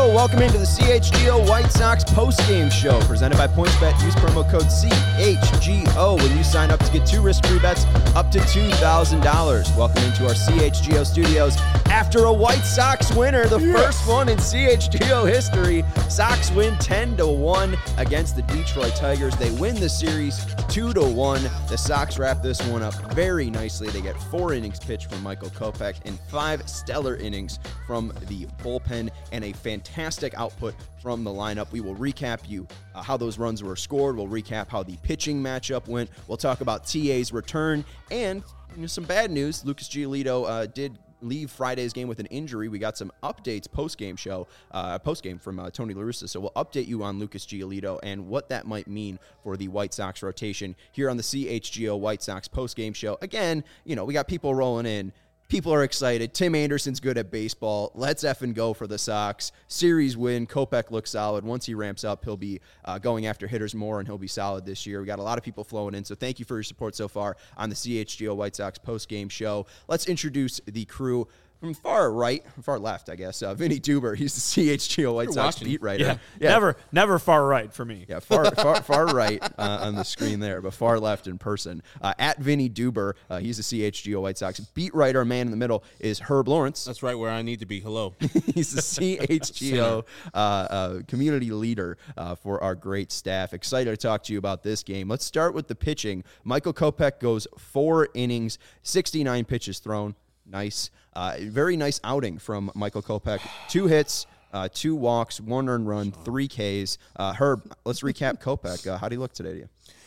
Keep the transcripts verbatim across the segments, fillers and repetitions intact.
Welcome into the C H G O White Sox postgame show presented by PointsBet. Use promo code C H G O when you sign up to get two risk-free bets up to two thousand dollars. Welcome into our C H G O studios after a White Sox winner, the yes. first one in C H G O history. Sox win ten to one against the Detroit Tigers. They win the series two to one. The Sox wrap this one up very nicely. They get four innings pitched from Michael Kopech and five stellar innings from the bullpen and a fantastic output from the lineup. We will recap you uh, how those runs were scored. We'll recap how the pitching matchup went. We'll talk about T A's return and you know, some bad news. Lucas Giolito uh, did leave Friday's game with an injury. We got some updates post-game show, uh, post-game from uh, Tony La Russa. So we'll update you on Lucas Giolito and what that might mean for the White Sox rotation here on the C H G O White Sox post-game show. Again, you know, we got people rolling in. People are excited. Tim Anderson's good at baseball. Let's effing go for the Sox. Series win. Kopech looks solid. Once he ramps up, he'll be uh, going after hitters more, and he'll be solid this year. We got a lot of people flowing in, so thank you for your support so far on the C H G O White Sox post-game show. Let's introduce the crew. From far right, far left, I guess, uh, Vinny Duber. He's the C H G O White You're Sox watching. beat writer. Yeah, yeah, never, never far right for me. Yeah, far, far, far right uh, on the screen there, but far left in person. Uh, at Vinny Duber, uh, he's the C H G O White Sox beat writer. Man in the middle is Herb Lawrence. That's right where I need to be. Hello. He's the C H G O uh, uh, community leader uh, for our great staff. Excited to talk to you about this game. Let's start with the pitching. Michael Kopech goes four innings, sixty-nine pitches thrown. Nice. Uh, very nice outing from Michael Kopech. Two hits, uh, two walks, one earned run, three Ks. Uh, Herb, let's recap Kopech. Uh, how did he look today to you?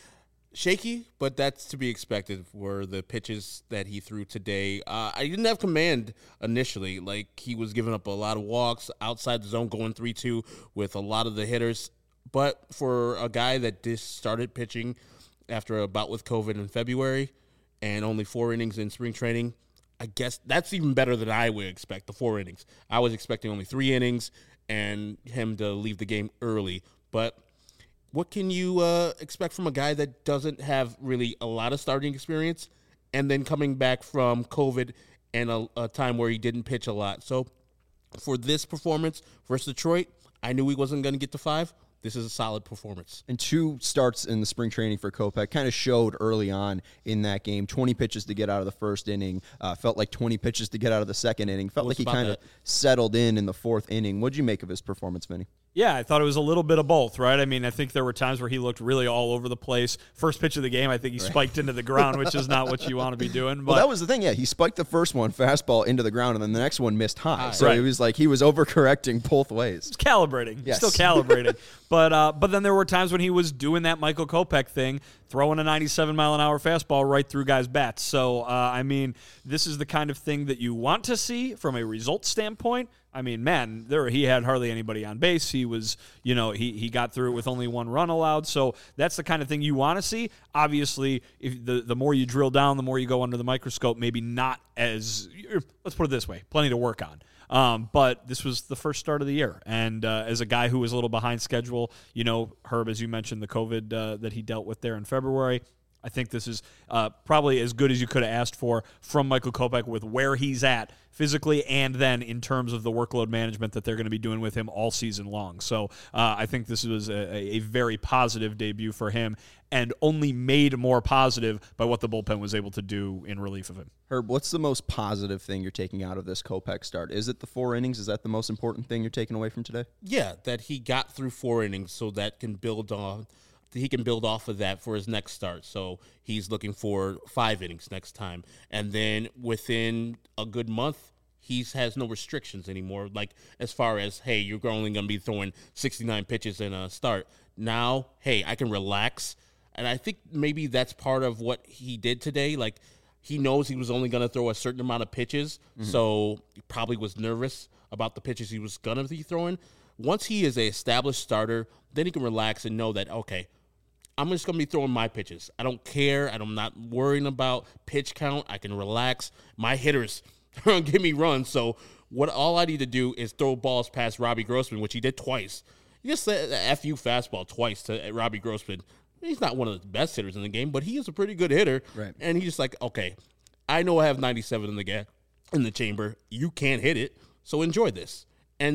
Shaky, but that's to be expected for the pitches that he threw today. Uh, I didn't have command initially. Like, he was giving up a lot of walks outside the zone, going three two with a lot of the hitters. But for a guy that just started pitching after a bout with COVID in February and only four innings in spring training, I guess that's even better than I would expect, the four innings. I was expecting only three innings and him to leave the game early. But what can you uh, expect from a guy that doesn't have really a lot of starting experience and then coming back from COVID and a, a time where he didn't pitch a lot? So for this performance versus Detroit, I knew he wasn't going to get to five. This is a solid performance. And two starts in the spring training for Kopech kind of showed early on in that game. twenty pitches to get out of the first inning. Uh, felt like twenty pitches to get out of the second inning. Felt like he kind of settled in in the fourth inning. What did you make of his performance, Vinny? Yeah, I thought it was a little bit of both, right? I mean, I think there were times where he looked really all over the place. First pitch of the game, I think he right. spiked into the ground, which is not what you want to be doing. But well, that was the thing, yeah. He spiked the first one, fastball into the ground, and then the next one missed high. So right. it was like he was overcorrecting both ways. It's calibrating. Yes. Still calibrating. But uh, but then there were times when he was doing that Michael Kopech thing, throwing a ninety-seven mile an hour fastball right through guys' bats. So, uh, I mean, this is the kind of thing that you want to see from a result standpoint. I mean, man, there he had hardly anybody on base. He was, you know, he he got through it with only one run allowed. So that's the kind of thing you want to see. Obviously, if the the more you drill down, the more you go under the microscope. Maybe not as, let's put it this way, plenty to work on. Um, but this was the first start of the year. And uh, as a guy who was a little behind schedule, you know, Herb, as you mentioned, the COVID uh, that he dealt with there in February, I think this is uh, probably as good as you could have asked for from Michael Kopech with where he's at physically and then in terms of the workload management that they're going to be doing with him all season long. So uh, I think this was a, a very positive debut for him and only made more positive by what the bullpen was able to do in relief of him. Herb, what's the most positive thing you're taking out of this Kopech start? Is it the four innings? Is that the most important thing you're taking away from today? Yeah, that he got through four innings so that can build on he can build off of that for his next start. So he's looking for five innings next time. And then within a good month, he has no restrictions anymore. Like as far as, hey, you're only going to be throwing sixty-nine pitches in a start. Now, hey, I can relax. And I think maybe that's part of what he did today. Like he knows he was only going to throw a certain amount of pitches. Mm-hmm. So he probably was nervous about the pitches he was going to be throwing. Once he is an established starter, then he can relax and know that, okay, I'm just going to be throwing my pitches. I don't care. I'm not worrying about pitch count. I can relax. My hitters are going to give me runs. So what all I need to do is throw balls past Robbie Grossman, which he did twice. He just said the F U fastball twice to Robbie Grossman. He's not one of the best hitters in the game, but he is a pretty good hitter. Right. And he's just like, okay, I know I have ninety-seven in the ga- in the chamber. You can't hit it, so enjoy this. And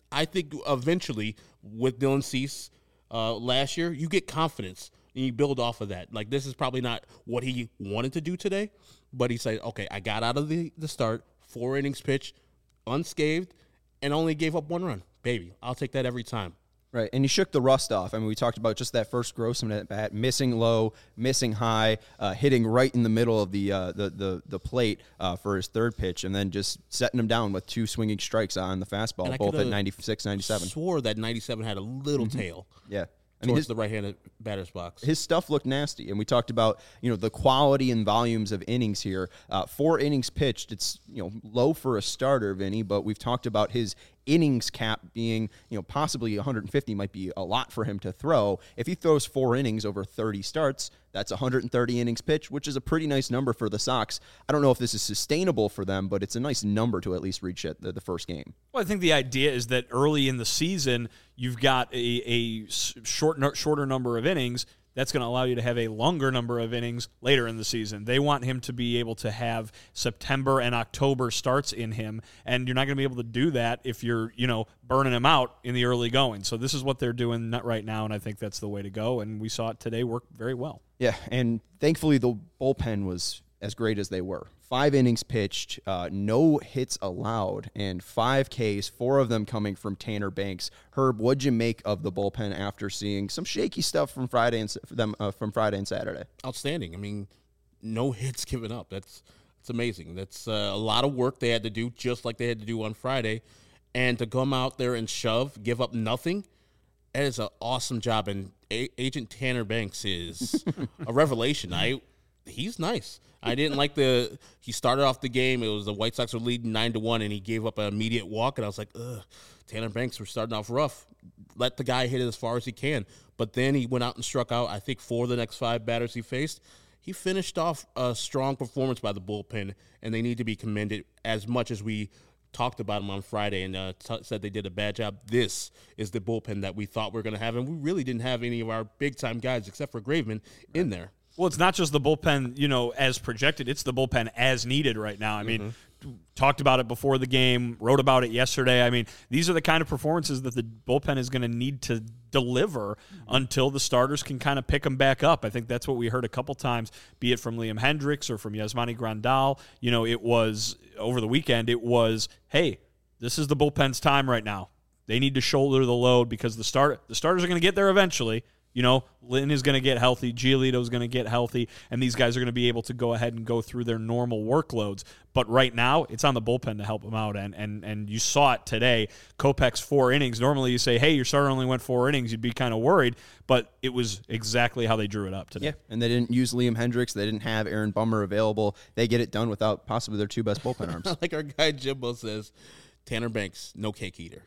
I think eventually with Dylan Cease uh, last year, you get confidence and you build off of that. Like, this is probably not what he wanted to do today, but he said, okay, I got out of the, the start, four innings pitch, unscathed, and only gave up one run. Baby, I'll take that every time. Right, and he shook the rust off. I mean, we talked about just that first Grossman at bat, missing low, missing high, uh, hitting right in the middle of the uh, the, the the plate uh, for his third pitch, and then just setting him down with two swinging strikes on the fastball, both at ninety-six, ninety-seven. I swore that ninety-seven had a little mm-hmm. tail. Yeah. I mean, towards his, the right-handed batter's box. His stuff looked nasty, and we talked about, you know, the quality and volumes of innings here. Uh, four innings pitched, it's, you know, low for a starter, Vinny, but we've talked about his innings cap being, you know, possibly one hundred fifty might be a lot for him to throw. If he throws four innings over thirty starts, that's one hundred thirty innings pitched, which is a pretty nice number for the Sox. I don't know if this is sustainable for them, but it's a nice number to at least reach it the, the first game. Well, I think the idea is that early in the season, you've got a, a short, shorter number of innings. That's going to allow you to have a longer number of innings later in the season. They want him to be able to have September and October starts in him, and you're not going to be able to do that if you're, you know, burning him out in the early going. So this is what they're doing right now, and I think that's the way to go, and we saw it today work very well. Yeah, and thankfully the bullpen was as great as they were. Five innings pitched, uh, no hits allowed, and five Ks, four of them coming from Tanner Banks. Herb, what'd you make of the bullpen after seeing some shaky stuff from Friday and them uh, from Friday and Saturday? Outstanding. I mean, no hits given up. That's that's amazing. That's uh, a lot of work they had to do, just like they had to do on Friday, and to come out there and shove, give up nothing. That is an awesome job, and A- Agent Tanner Banks is a revelation. I he's nice. I didn't like the – he started off the game. It was the White Sox were leading nine to one, and he gave up an immediate walk. And I was like, ugh, Tanner Banks, we're starting off rough. Let the guy hit it as far as he can. But then he went out and struck out, I think, four of the next five batters he faced. He finished off a strong performance by the bullpen, and they need to be commended as much as we talked about him on Friday and uh, t- said they did a bad job. This is the bullpen that we thought we were going to have, and we really didn't have any of our big-time guys except for Graveman in there. Well, it's not just the bullpen, you know, as projected. It's the bullpen as needed right now. I mean, mm-hmm. talked about it before the game, wrote about it yesterday. I mean, these are the kind of performances that the bullpen is going to need to deliver mm-hmm. until the starters can kind of pick them back up. I think that's what we heard a couple times, be it from Liam Hendriks or from Yasmani Grandal. You know, it was, over the weekend, it was, hey, this is the bullpen's time right now. They need to shoulder the load because the start the starters are going to get there eventually. You know, Lynn is going to get healthy, Giolito is going to get healthy, and these guys are going to be able to go ahead and go through their normal workloads. But right now, it's on the bullpen to help them out, and and and you saw it today. Kopech's four innings. Normally you say, hey, your starter only went four innings. You'd be kind of worried, but it was exactly how they drew it up today. Yeah, and they didn't use Liam Hendriks. They didn't have Aaron Bummer available. They get it done without possibly their two best bullpen arms. Like our guy Jimbo says, Tanner Banks, no cake eater.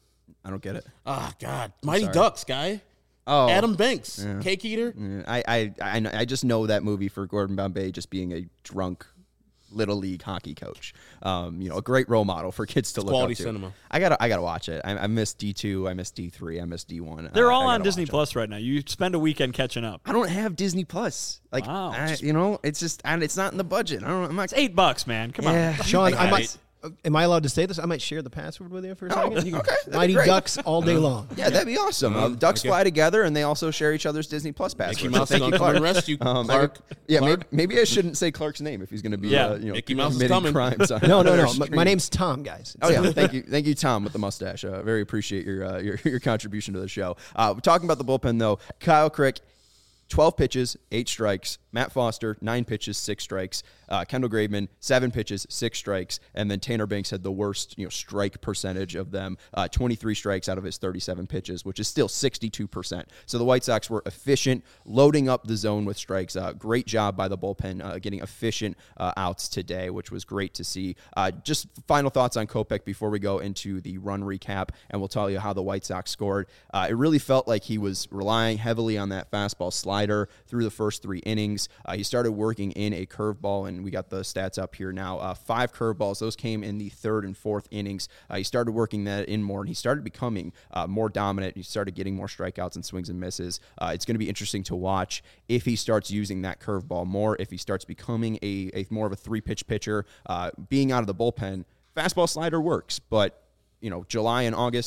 I don't get it. Ah, oh, God. Mighty Ducks, guy. Oh, Adam Banks, yeah. Cake Eater. Yeah, I, I, I, I just know that movie for Gordon Bombay just being a drunk little league hockey coach. Um, you know, a great role model for kids to it's look quality up to. Cinema. I gotta, I gotta watch it. I, I miss D two, I miss D three, I miss D one. They're I, all I on Disney Plus right now. You spend a weekend catching up. I don't have Disney Plus. Like, wow. I, you know, it's just, and it's not in the budget. I don't. I'm not. It's eight bucks, man. Come yeah. on, Sean. I might. Am I allowed to say this? I might share the password with you for a oh, second. You okay, Mighty Ducks all day long. Yeah, that'd be awesome. Uh, ducks okay. fly together, and they also share each other's Disney Plus passwords. Mickey Mouse is going to arrest you, um, Clark. I, yeah, Clark. Maybe, maybe I shouldn't say Clark's name if he's going to be, yeah. uh, you know, Mickey Mouse committing is coming. crimes. On no, no, no. My, my name's Tom, guys. Oh yeah, thank you, thank you, Tom, with the mustache. Uh, very appreciate your, uh, your your contribution to the show. Uh, we're talking about the bullpen though. Kyle Crick, twelve pitches, eight strikes. Matt Foster, nine pitches, six strikes. Uh, Kendall Graveman, seven pitches, six strikes. And then Tanner Banks had the worst, you know, strike percentage of them, uh, twenty-three strikes out of his thirty-seven pitches, which is still sixty-two percent. So the White Sox were efficient, loading up the zone with strikes. Uh, great job by the bullpen, uh, getting efficient uh, outs today, which was great to see. Uh, just final thoughts on Kopech before we go into the run recap, and we'll tell you how the White Sox scored. Uh, it really felt like he was relying heavily on that fastball slider through the first three innings. Uh, he started working in a curveball, and we got the stats up here now. Uh, five curveballs. Those came in the third and fourth innings. Uh, he started working that in more, and he started becoming uh, more dominant. He started getting more strikeouts and swings and misses. Uh, it's going to be interesting to watch if he starts using that curveball more, if he starts becoming a, a more of a three-pitch pitcher. Uh, being out of the bullpen, fastball slider works, but you know, July and August,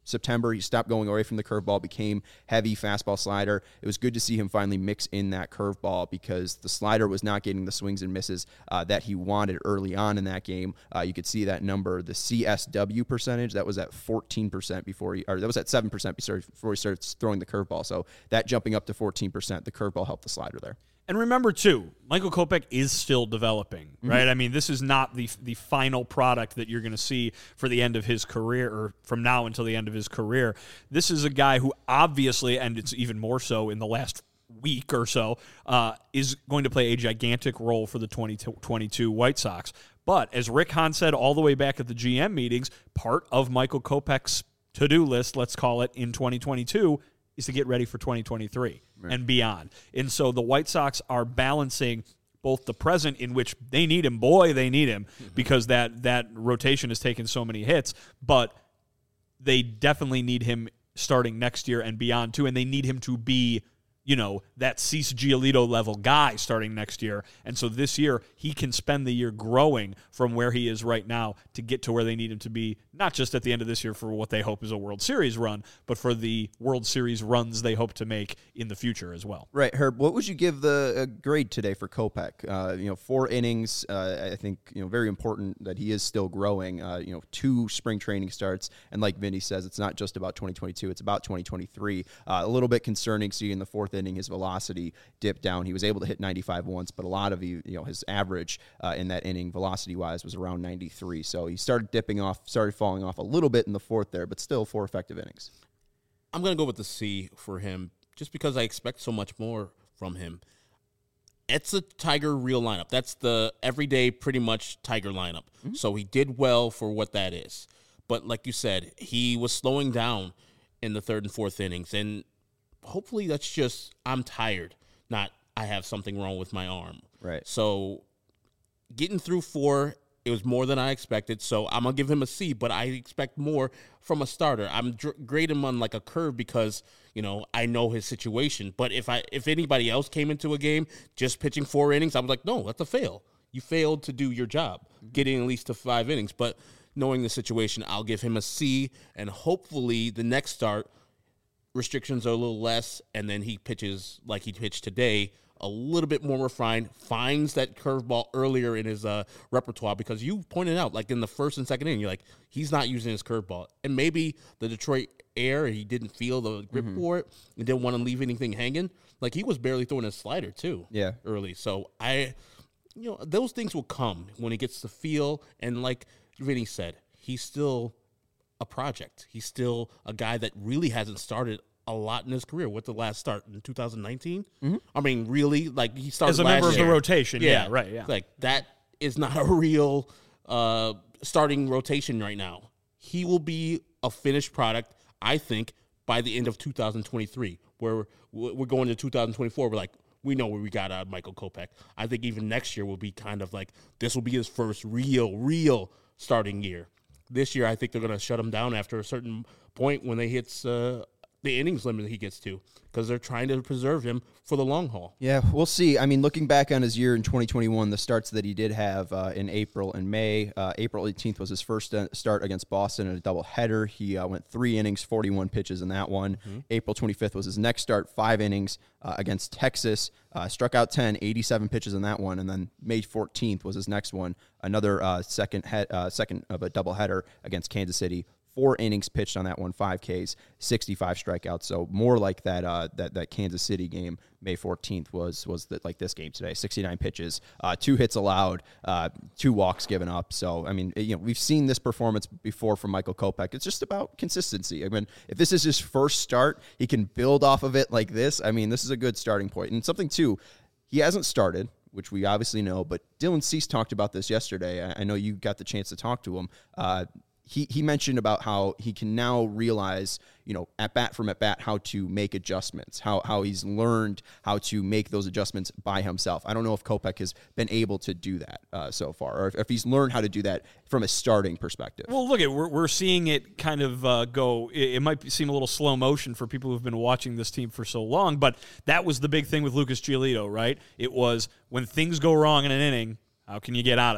September, he stopped going away from the curveball, became heavy fastball slider. It was good to see him finally mix in that curveball because the slider was not getting the swings and misses uh, that he wanted early on in that game. Uh, you could see that number, the C S W percentage, that was at fourteen percent before he, or that was at seven percent before he started throwing the curveball. So that jumping up to fourteen percent, the curveball helped the slider there. And remember, too, Michael Kopech is still developing, right? Mm-hmm. I mean, this is not the the final product that you're going to see for the end of his career or from now until the end of his career. This is a guy who obviously, and it's even more so in the last week or so, uh, is going to play a gigantic role for the twenty twenty-two White Sox. But as Rick Hahn said all the way back at the G M meetings, part of Michael Kopech's to-do list, let's call it, in twenty twenty-two is to get ready for twenty twenty-three right. and beyond. And so the White Sox are balancing both the present, in which they need him, boy, they need him, mm-hmm. because that that rotation has taken so many hits, but they definitely need him starting next year and beyond, too, and they need him to be, you know, that Cease Giolito level guy starting next year. And so this year, he can spend the year growing from where he is right now to get to where they need him to be, not just at the end of this year for what they hope is a World Series run, but for the World Series runs they hope to make in the future as well. Right, Herb, what would you give the uh, grade today for Kopech? Uh, you know, four innings, uh, I think, you know, very important that he is still growing. Uh, you know, two spring training starts, and like Vinny says, it's not just about twenty twenty-two, it's about twenty twenty-three. Uh, a little bit concerning seeing the fourth inning, his velocity dipped down. He was able to hit ninety-five once, but a lot of you, you know, his average uh, in that inning, velocity-wise, was around ninety-three. So he started dipping off, started falling off a little bit in the fourth there, but still four effective innings. I'm going to go with the C for him, just because I expect so much more from him. It's a Tiger real lineup. That's the everyday, pretty much Tiger lineup. Mm-hmm. So he did well for what that is. But like you said, he was slowing down in the third and fourth innings, and hopefully that's just I'm tired, not I have something wrong with my arm. Right. So getting through four, it was more than I expected. So I'm going to give him a C, but I expect more from a starter. I'm dr- grading him on like a curve because, you know, I know his situation. But if I if anybody else came into a game just pitching four innings, I was like, no, that's a fail. You failed to do your job, getting at least to five innings. But knowing the situation, I'll give him a C, and hopefully the next start, restrictions are a little less, and then he pitches like he pitched today, a little bit more refined, finds that curveball earlier in his uh, repertoire, because you pointed out, like in the first and second inning, you're like, he's not using his curveball. And maybe the Detroit air, he didn't feel the grip mm-hmm. for it and didn't want to leave anything hanging. Like, he was barely throwing his slider, too, yeah, early. So, I, you know, those things will come when he gets the feel. And like Vinny said, he's still a project. He's still a guy that really hasn't started a lot in his career. What's the last start in two thousand nineteen? Mm-hmm. I mean, really, like he started as a last member of year. the rotation. Yeah, yeah, right. Yeah, like that is not a real uh, starting rotation right now. He will be a finished product, I think, by the end of two thousand twenty-three. Where we're going to two thousand twenty-four, we're like, we know where we got out of Michael Kopech. I think even next year will be kind of like this will be his first real, real starting year. This year, I think they're going to shut him down after a certain point when they hits uh, the innings limit that he gets to, because they're trying to preserve him for the long haul. Yeah, we'll see. I mean, looking back on his year in twenty twenty-one, the starts that he did have uh, in April and May, uh, April eighteenth was his first start against Boston in a doubleheader. He uh, went three innings, forty-one pitches in that one. Mm-hmm. April twenty-fifth was his next start, five innings uh, against Texas. Uh, struck out ten, eighty-seven pitches in that one. And then May fourteenth was his next one, another uh, second, he- uh, second of a doubleheader against Kansas City. Four innings pitched on that one, five Ks, sixty-five strikeouts. So more like that uh, that that Kansas City game, May fourteenth was was the, like this game today, sixty-nine pitches, uh, two hits allowed, uh, two walks given up. So I mean, you know, we've seen this performance before from Michael Kopech. It's just about consistency. I mean, if this is his first start, he can build off of it like this. I mean, this is a good starting point. And something too, he hasn't started, which we obviously know, but Dylan Cease talked about this yesterday. I, I know you got the chance to talk to him. Uh, He he mentioned about how he can now realize, you know, at bat from at bat, how to make adjustments, how how he's learned how to make those adjustments by himself. I don't know if Kopech has been able to do that uh, so far, or if, if he's learned how to do that from a starting perspective. Well, look, at we're we're seeing it kind of uh, go. It, it might be, seem a little slow motion for people who've been watching this team for so long, but that was the big thing with Lucas Giolito, right? It was when things go wrong in an inning, how can you get out of it?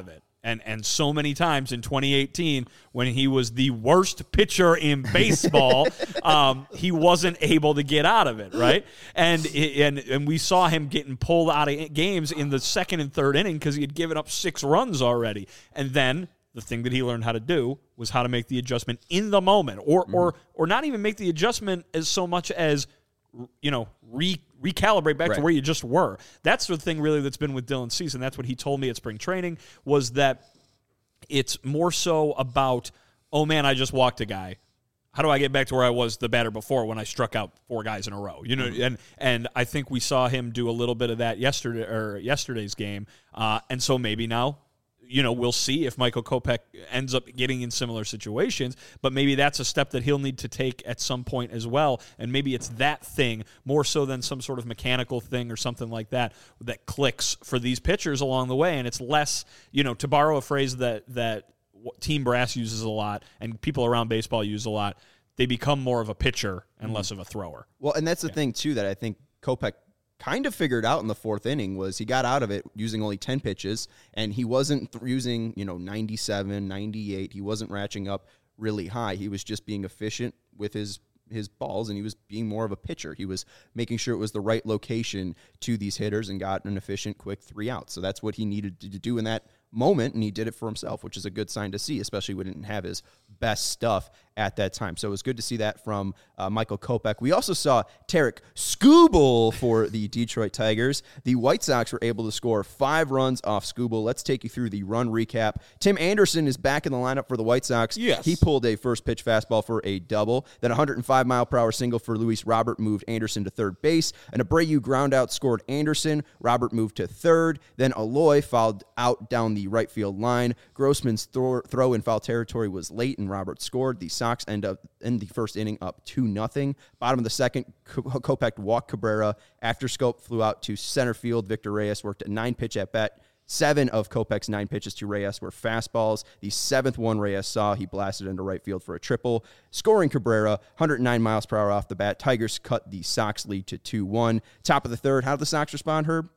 And and so many times in twenty eighteen, when he was the worst pitcher in baseball, um, he wasn't able to get out of it, right? And and and we saw him getting pulled out of games in the second and third inning because he had given up six runs already. And then the thing that he learned how to do was how to make the adjustment in the moment, or mm. or or not even make the adjustment as so much as, you know, re recalibrate back right. to where you just were. That's the thing really that's been with Dylan Cease, and that's what he told me at spring training, was that it's more so about, oh man, I just walked a guy. How do I get back to where I was the batter before when I struck out four guys in a row? You know, mm-hmm. and and I think we saw him do a little bit of that yesterday or yesterday's game, uh, and so maybe now, you know, we'll see if Michael Kopech ends up getting in similar situations, but maybe that's a step that he'll need to take at some point as well, and maybe it's that thing more so than some sort of mechanical thing or something like that that clicks for these pitchers along the way, and it's less, you know, to borrow a phrase that, that Team Brass uses a lot and people around baseball use a lot, they become more of a pitcher and mm-hmm. less of a thrower. Well, and that's the yeah. thing, too, that I think Kopech kind of figured out in the fourth inning was he got out of it using only ten pitches, and he wasn't th- using, you know, ninety-seven, ninety-eight. He wasn't ratcheting up really high. He was just being efficient with his his balls, and he was being more of a pitcher. He was making sure it was the right location to these hitters and got an efficient, quick three outs. So that's what he needed to do in that moment, and he did it for himself, which is a good sign to see, especially when he didn't have his best stuff at that time. So it was good to see that from uh, Michael Kopech. We also saw Tarik Skubal for the Detroit Tigers. The White Sox were able to score five runs off Skubal. Let's take you through the run recap. Tim Anderson is back in the lineup for the White Sox. Yes. He pulled a first pitch fastball for a double. Then a one hundred five mile per hour single for Luis Robert moved Anderson to third base. An Abreu ground out scored Anderson. Robert moved to third. Then Aloy fouled out down the right field line. Grossman's throw, throw in foul territory was late, and Robert scored. The Sox end up in the first inning up two nothing. Bottom of the second, Kopech walked Cabrera. After Scope flew out to center field. Victor Reyes worked a nine-pitch at-bat. Seven of Kopech's nine pitches to Reyes were fastballs. The seventh one Reyes saw, he blasted into right field for a triple. Scoring Cabrera, one hundred nine miles per hour off the bat. Tigers cut the Sox lead to two one. Top of the third, how did the Sox respond, Herb?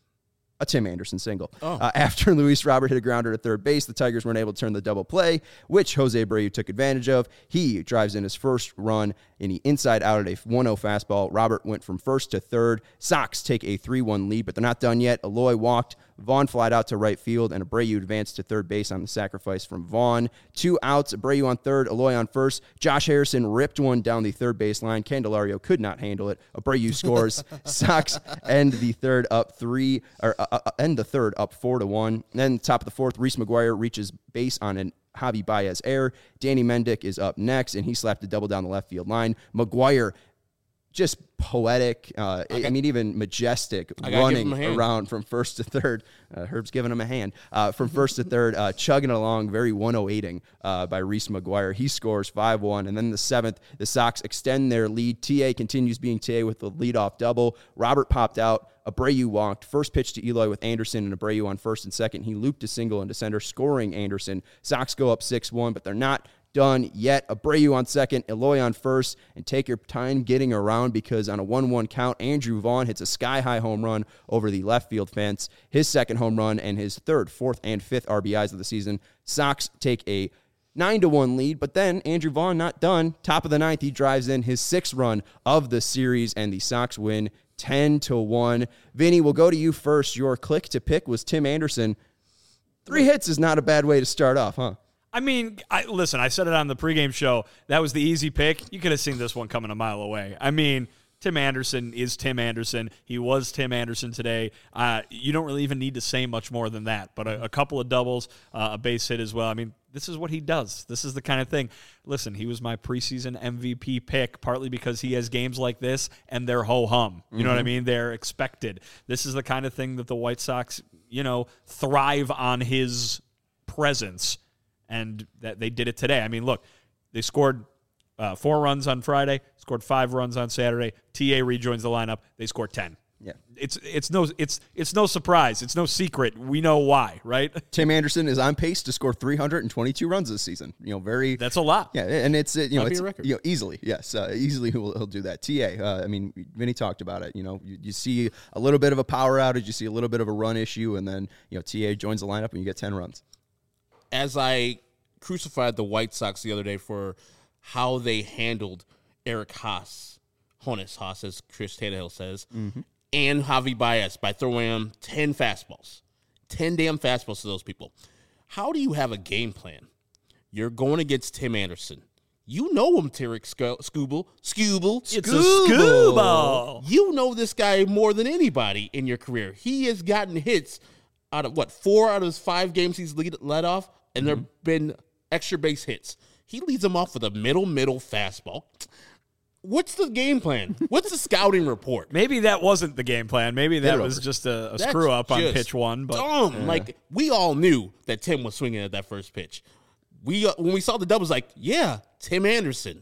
A Tim Anderson single. Oh. Uh, after Luis Robert hit a grounder at third base, the Tigers weren't able to turn the double play, which Jose Abreu took advantage of. He drives in his first run in the inside out at a one oh fastball. Robert went from first to third. Sox take a three one lead, but they're not done yet. Aloy walked. Vaughn flied out to right field, and Abreu advanced to third base on the sacrifice from Vaughn. Two outs, Abreu on third, Aloy on first. Josh Harrison ripped one down the third base line. Candelario could not handle it. Abreu scores. Sox end the third up three, or uh, uh, end the third up four to one. Then top of the fourth, Reese McGuire reaches base on an Javi Baez error. Danny Mendick is up next, and he slapped a double down the left field line. McGuire, just poetic, uh, I, I mean, even majestic, running around from first to third. Uh, Herb's giving him a hand. Uh, from first to third, uh, chugging along, very one oh eighting uh, by Reese McGuire. He scores five one. And then the seventh, the Sox extend their lead. T A continues being T A with the leadoff double. Robert popped out. Abreu walked. First pitch to Eloy with Anderson and Abreu on first and second. He looped a single into center, scoring Anderson. Sox go up six one, but they're not done yet. Abreu on second, Eloy on first, and take your time getting around because on a one one count, Andrew Vaughn hits a sky-high home run over the left field fence. His second home run and his third, fourth, and fifth R B Is of the season. Sox take a nine to one lead, but then Andrew Vaughn not done. Top of the ninth, he drives in his sixth run of the series, and the Sox win ten to one. Vinny, we'll go to you first. Your click to pick was Tim Anderson. Three hits is not a bad way to start off, huh? I mean, I, listen, I said it on the pregame show. That was the easy pick. You could have seen this one coming a mile away. I mean, Tim Anderson is Tim Anderson. He was Tim Anderson today. Uh, you don't really even need to say much more than that. But a, a couple of doubles, uh, a base hit as well. I mean, this is what he does. This is the kind of thing. Listen, he was my preseason M V P pick, partly because he has games like this, and they're ho-hum. You mm-hmm. know what I mean? They're expected. This is the kind of thing that the White Sox, you know, thrive on his presence. And that they did it today. I mean, look, they scored uh, four runs on Friday, scored five runs on Saturday. T A rejoins the lineup. They scored ten. Yeah, it's it's no it's it's no surprise. It's no secret. We know why, right? Tim Anderson is on pace to score three hundred twenty-two runs this season. You know, very that's a lot. Yeah, and it's you know That'd it's you know easily yes uh, easily he'll, he'll do that. T A, uh, I mean, Vinny talked about it. You know, you, you see a little bit of a power outage, you see a little bit of a run issue, and then you know T A joins the lineup and you get ten runs. as I crucified the White Sox the other day for how they handled Eric Haas, Honus Haas, as Chris Tannehill says, mm-hmm. and Javi Baez by throwing him ten fastballs, ten damn fastballs to those people. How do you have a game plan? You're going against Tim Anderson. You know him, Tarek Skubal. Skubal. It's a Skubal. You know this guy more than anybody in your career. He has gotten hits out of, what, four out of his five games he's lead, led off, and mm-hmm. there have been extra base hits. He leads them off with a middle, middle fastball. What's the game plan? What's the scouting report? Maybe that wasn't the game plan. Maybe that was just a, a screw up on pitch one. But dumb. Yeah. Like, we all knew that Tim was swinging at that first pitch. We uh, when we saw the doubles, like, yeah, Tim Anderson.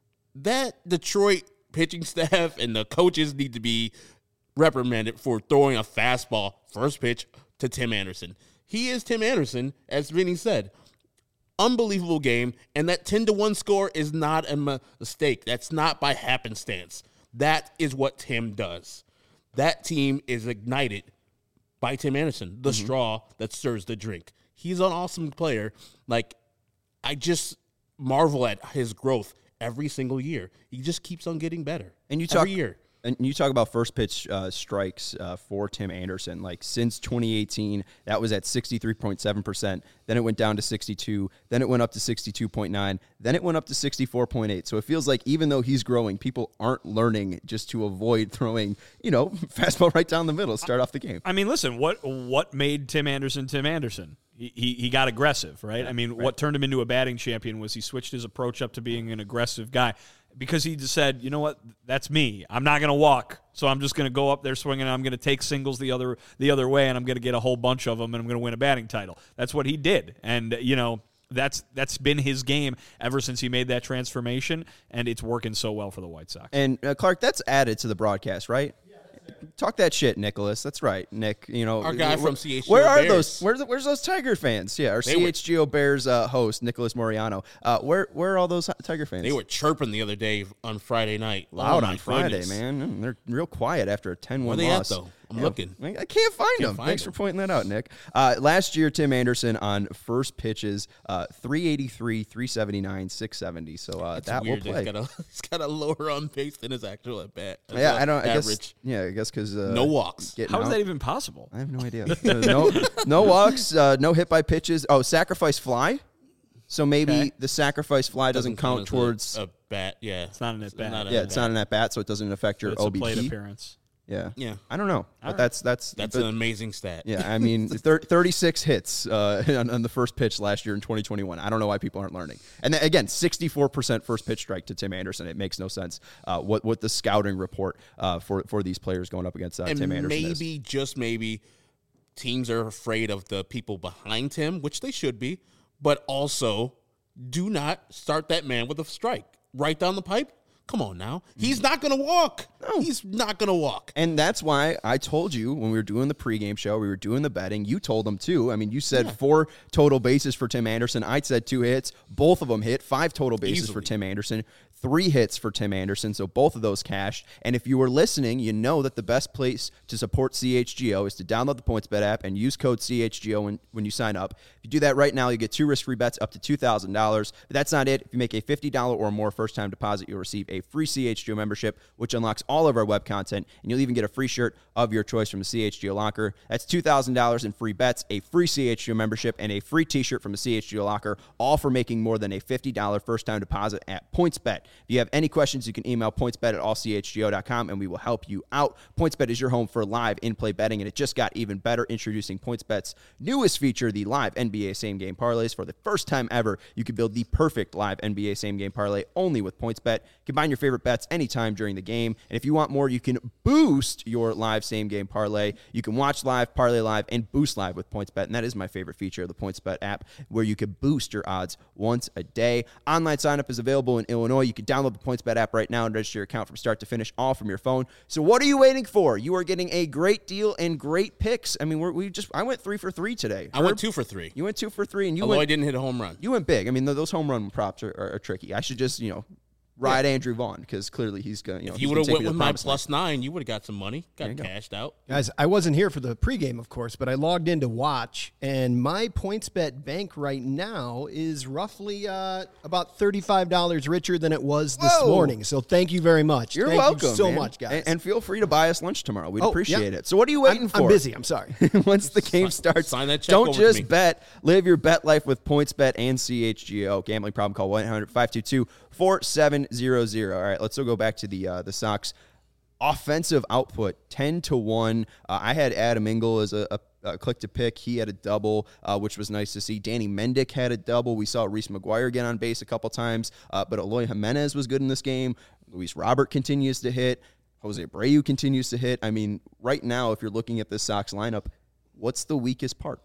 That Detroit pitching staff and the coaches need to be reprimanded for throwing a fastball first pitch to Tim Anderson. He is Tim Anderson, as Vinny said. Unbelievable game, and that ten to one score is not a mistake. That's not by happenstance. That is what Tim does. That team is ignited by Tim Anderson, the mm-hmm. straw that stirs the drink. He's an awesome player. Like, I just marvel at his growth every single year. He just keeps on getting better. And you talk, every year. And you talk about first pitch uh, strikes uh, for Tim Anderson. Like, since twenty eighteen, that was at sixty-three point seven percent. Then it went down to sixty-two. Then it went up to sixty-two point nine. Then it went up to sixty-four point eight. So it feels like even though he's growing, people aren't learning just to avoid throwing, you know, fastball right down the middle, start off the game. I mean, listen, what what made Tim Anderson Tim Anderson? He, he he got aggressive, right? I mean, right. What turned him into a batting champion was he switched his approach up to being an aggressive guy. Because he just said, you know what, that's me. I'm not going to walk, so I'm just going to go up there swinging, and I'm going to take singles the other the other way, and I'm going to get a whole bunch of them, and I'm going to win a batting title. That's what he did, and you know that's that's been his game ever since he made that transformation, and it's working so well for the White Sox. And uh, Clark, that's added to the broadcast, right? Talk that shit, Nicholas. That's right, Nick. You know, our guy from C H G O Where are Bears. those? Where's where's those Tiger fans? Yeah, our they C H G O were, Bears uh, host, Nicholas Moriano. Uh, where where are all those Tiger fans? They were chirping the other day on Friday night. Loud oh, on Friday, goodness. man. They're real quiet after a ten one loss. Where they loss. at, though? I'm yeah, looking. I can't find can't them. Find Thanks them. for pointing that out, Nick. Uh, last year, Tim Anderson on first pitches, uh, three eighty-three, three seventy-nine, six seventy. So uh, that weird. will play. He's got, a, he's got a lower on base than his actual at bat. Yeah, I don't. I average. guess. Yeah, I guess because uh, no walks. How is out. that even possible? I have no idea. uh, no, no walks. Uh, no hit by pitches. Oh, sacrifice fly. So maybe okay. the sacrifice fly doesn't, doesn't count, count towards a, a bat. Yeah, it's not an at bat. Not yeah, an it's bat. not an at bat, so it doesn't affect your but it's O B P a plate appearance. Yeah, yeah. I don't know, All but right. that's that's that's but, an amazing stat. Yeah, I mean, thir- thirty-six hits uh, on, on the first pitch last year in twenty twenty-one. I don't know why people aren't learning. And then, again, sixty-four percent first pitch strike to Tim Anderson. It makes no sense. Uh, what what the scouting report uh, for for these players going up against uh, and Tim Anderson maybe is. just maybe teams are afraid of the people behind him, which they should be, but also do not start that man with a strike right down the pipe. Come on now. He's not going to walk. No. He's not going to walk. And that's why I told you when we were doing the pregame show, we were doing the betting, you told them too. I mean, you said yeah. four total bases for Tim Anderson. I said two hits. Both of them hit. Five total bases Easily. for Tim Anderson. Three hits for Tim Anderson, so both of those cashed. And if you were listening, you know that the best place to support C H G O is to download the PointsBet app and use code C H G O when, when you sign up. If you do that right now, you get two risk-free bets up to two thousand dollars. But that's not it. If you make a fifty dollars or more first-time deposit, you'll receive a free C H G O membership, which unlocks all of our web content, and you'll even get a free shirt of your choice from the C H G O Locker. That's two thousand dollars in free bets, a free C H G O membership, and a free t-shirt from the C H G O Locker, all for making more than a fifty dollars first-time deposit at PointsBet. If you have any questions, you can email pointsbet at all c h g o dot com, and we will help you out. PointsBet is your home for live in-play betting, and it just got even better. Introducing PointsBet's newest feature, the live N B A same-game parlays. For the first time ever, you can build the perfect live N B A same-game parlay only with PointsBet. Combine your favorite bets anytime during the game, and if you want more, you can boost your live same-game parlay. You can watch live, parlay live, and boost live with PointsBet, and that is my favorite feature of the PointsBet app, where you can boost your odds once a day. Online sign-up is available in Illinois. You can download the PointsBet app right now and register your account from start to finish, all from your phone. So what are you waiting for? You are getting a great deal and great picks. I mean, we're, we just I went three for three today. I Herb, went two for three. You went two for three, and you Although went, I didn't hit a home run. You went big. I mean, those home run props are, are, are tricky. I should just, you know, ride yeah. Andrew Vaughn because clearly he's going. You know, if you would have went with my plus nine, you would have got some money, got cashed go. out. Guys, I wasn't here for the pregame, of course, but I logged in to watch, and my PointsBet bank right now is roughly uh, about thirty-five dollars richer than it was this Whoa. morning. So thank you very much. You're thank welcome you so man. much, guys. And, and feel free to buy us lunch tomorrow. We'd oh, appreciate yeah. it. So what are you waiting I'm, for? I'm busy. I'm sorry. Once the game sign, starts, sign that check don't over just to me. bet. Live your bet life with PointsBet and C H G O. Gambling problem, call one eight hundred five two two four seven zero zero. All right, let's still go back to the uh, the Sox offensive output, ten to one. Uh, I had Adam Engel as a, a, a click to pick. He had a double, uh, which was nice to see. Danny Mendick had a double. We saw Reese McGuire get on base a couple times, uh, but Eloy Jimenez was good in this game. Luis Robert continues to hit. Jose Abreu continues to hit. I mean, right now, if you're looking at this Sox lineup, what's the weakest part?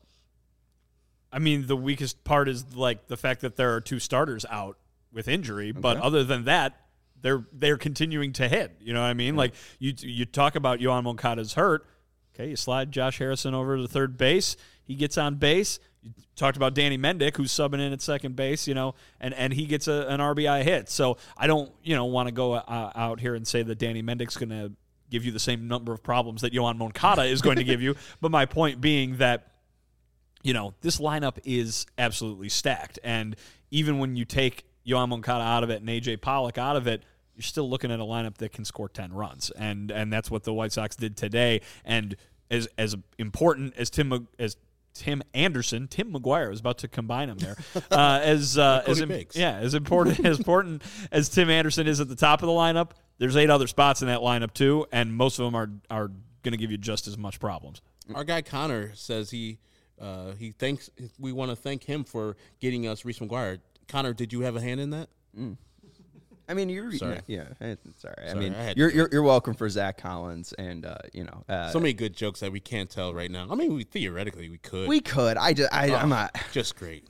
I mean, the weakest part is like the fact that there are two starters out with injury, okay. but other than that, they're they're continuing to hit. You know what I mean? Yeah. Like you you talk about Yoan Moncada's hurt. Okay, you slide Josh Harrison over to third base. He gets on base. You talked about Danny Mendick, who's subbing in at second base, you know, and, and he gets a, an R B I hit. So I don't, you know, want to go uh, out here and say that Danny Mendick's going to give you the same number of problems that Yoan Moncada is going to give you. But my point being that, you know, this lineup is absolutely stacked. And even when you take Yoan Moncada out of it and A J Pollock out of it, you're still looking at a lineup that can score ten runs. And and that's what the White Sox did today. And as as important as Tim as Tim Anderson, Tim McGuire, I was about to combine him there. Uh, as uh, as im- yeah, as important as important as Tim Anderson is at the top of the lineup, there's eight other spots in that lineup too, and most of them are are going to give you just as much problems. Our guy Connor says he uh, he thanks we want to thank him for getting us Reese McGuire. Connor, did you have a hand in that? Mm. I mean, you're sorry. yeah. Sorry. sorry. I sorry mean, I you're, you're you're welcome for Zach Collins and uh, you know uh, so many good jokes that we can't tell right now. I mean, we theoretically we could. We could. I just I, oh, I'm not just great.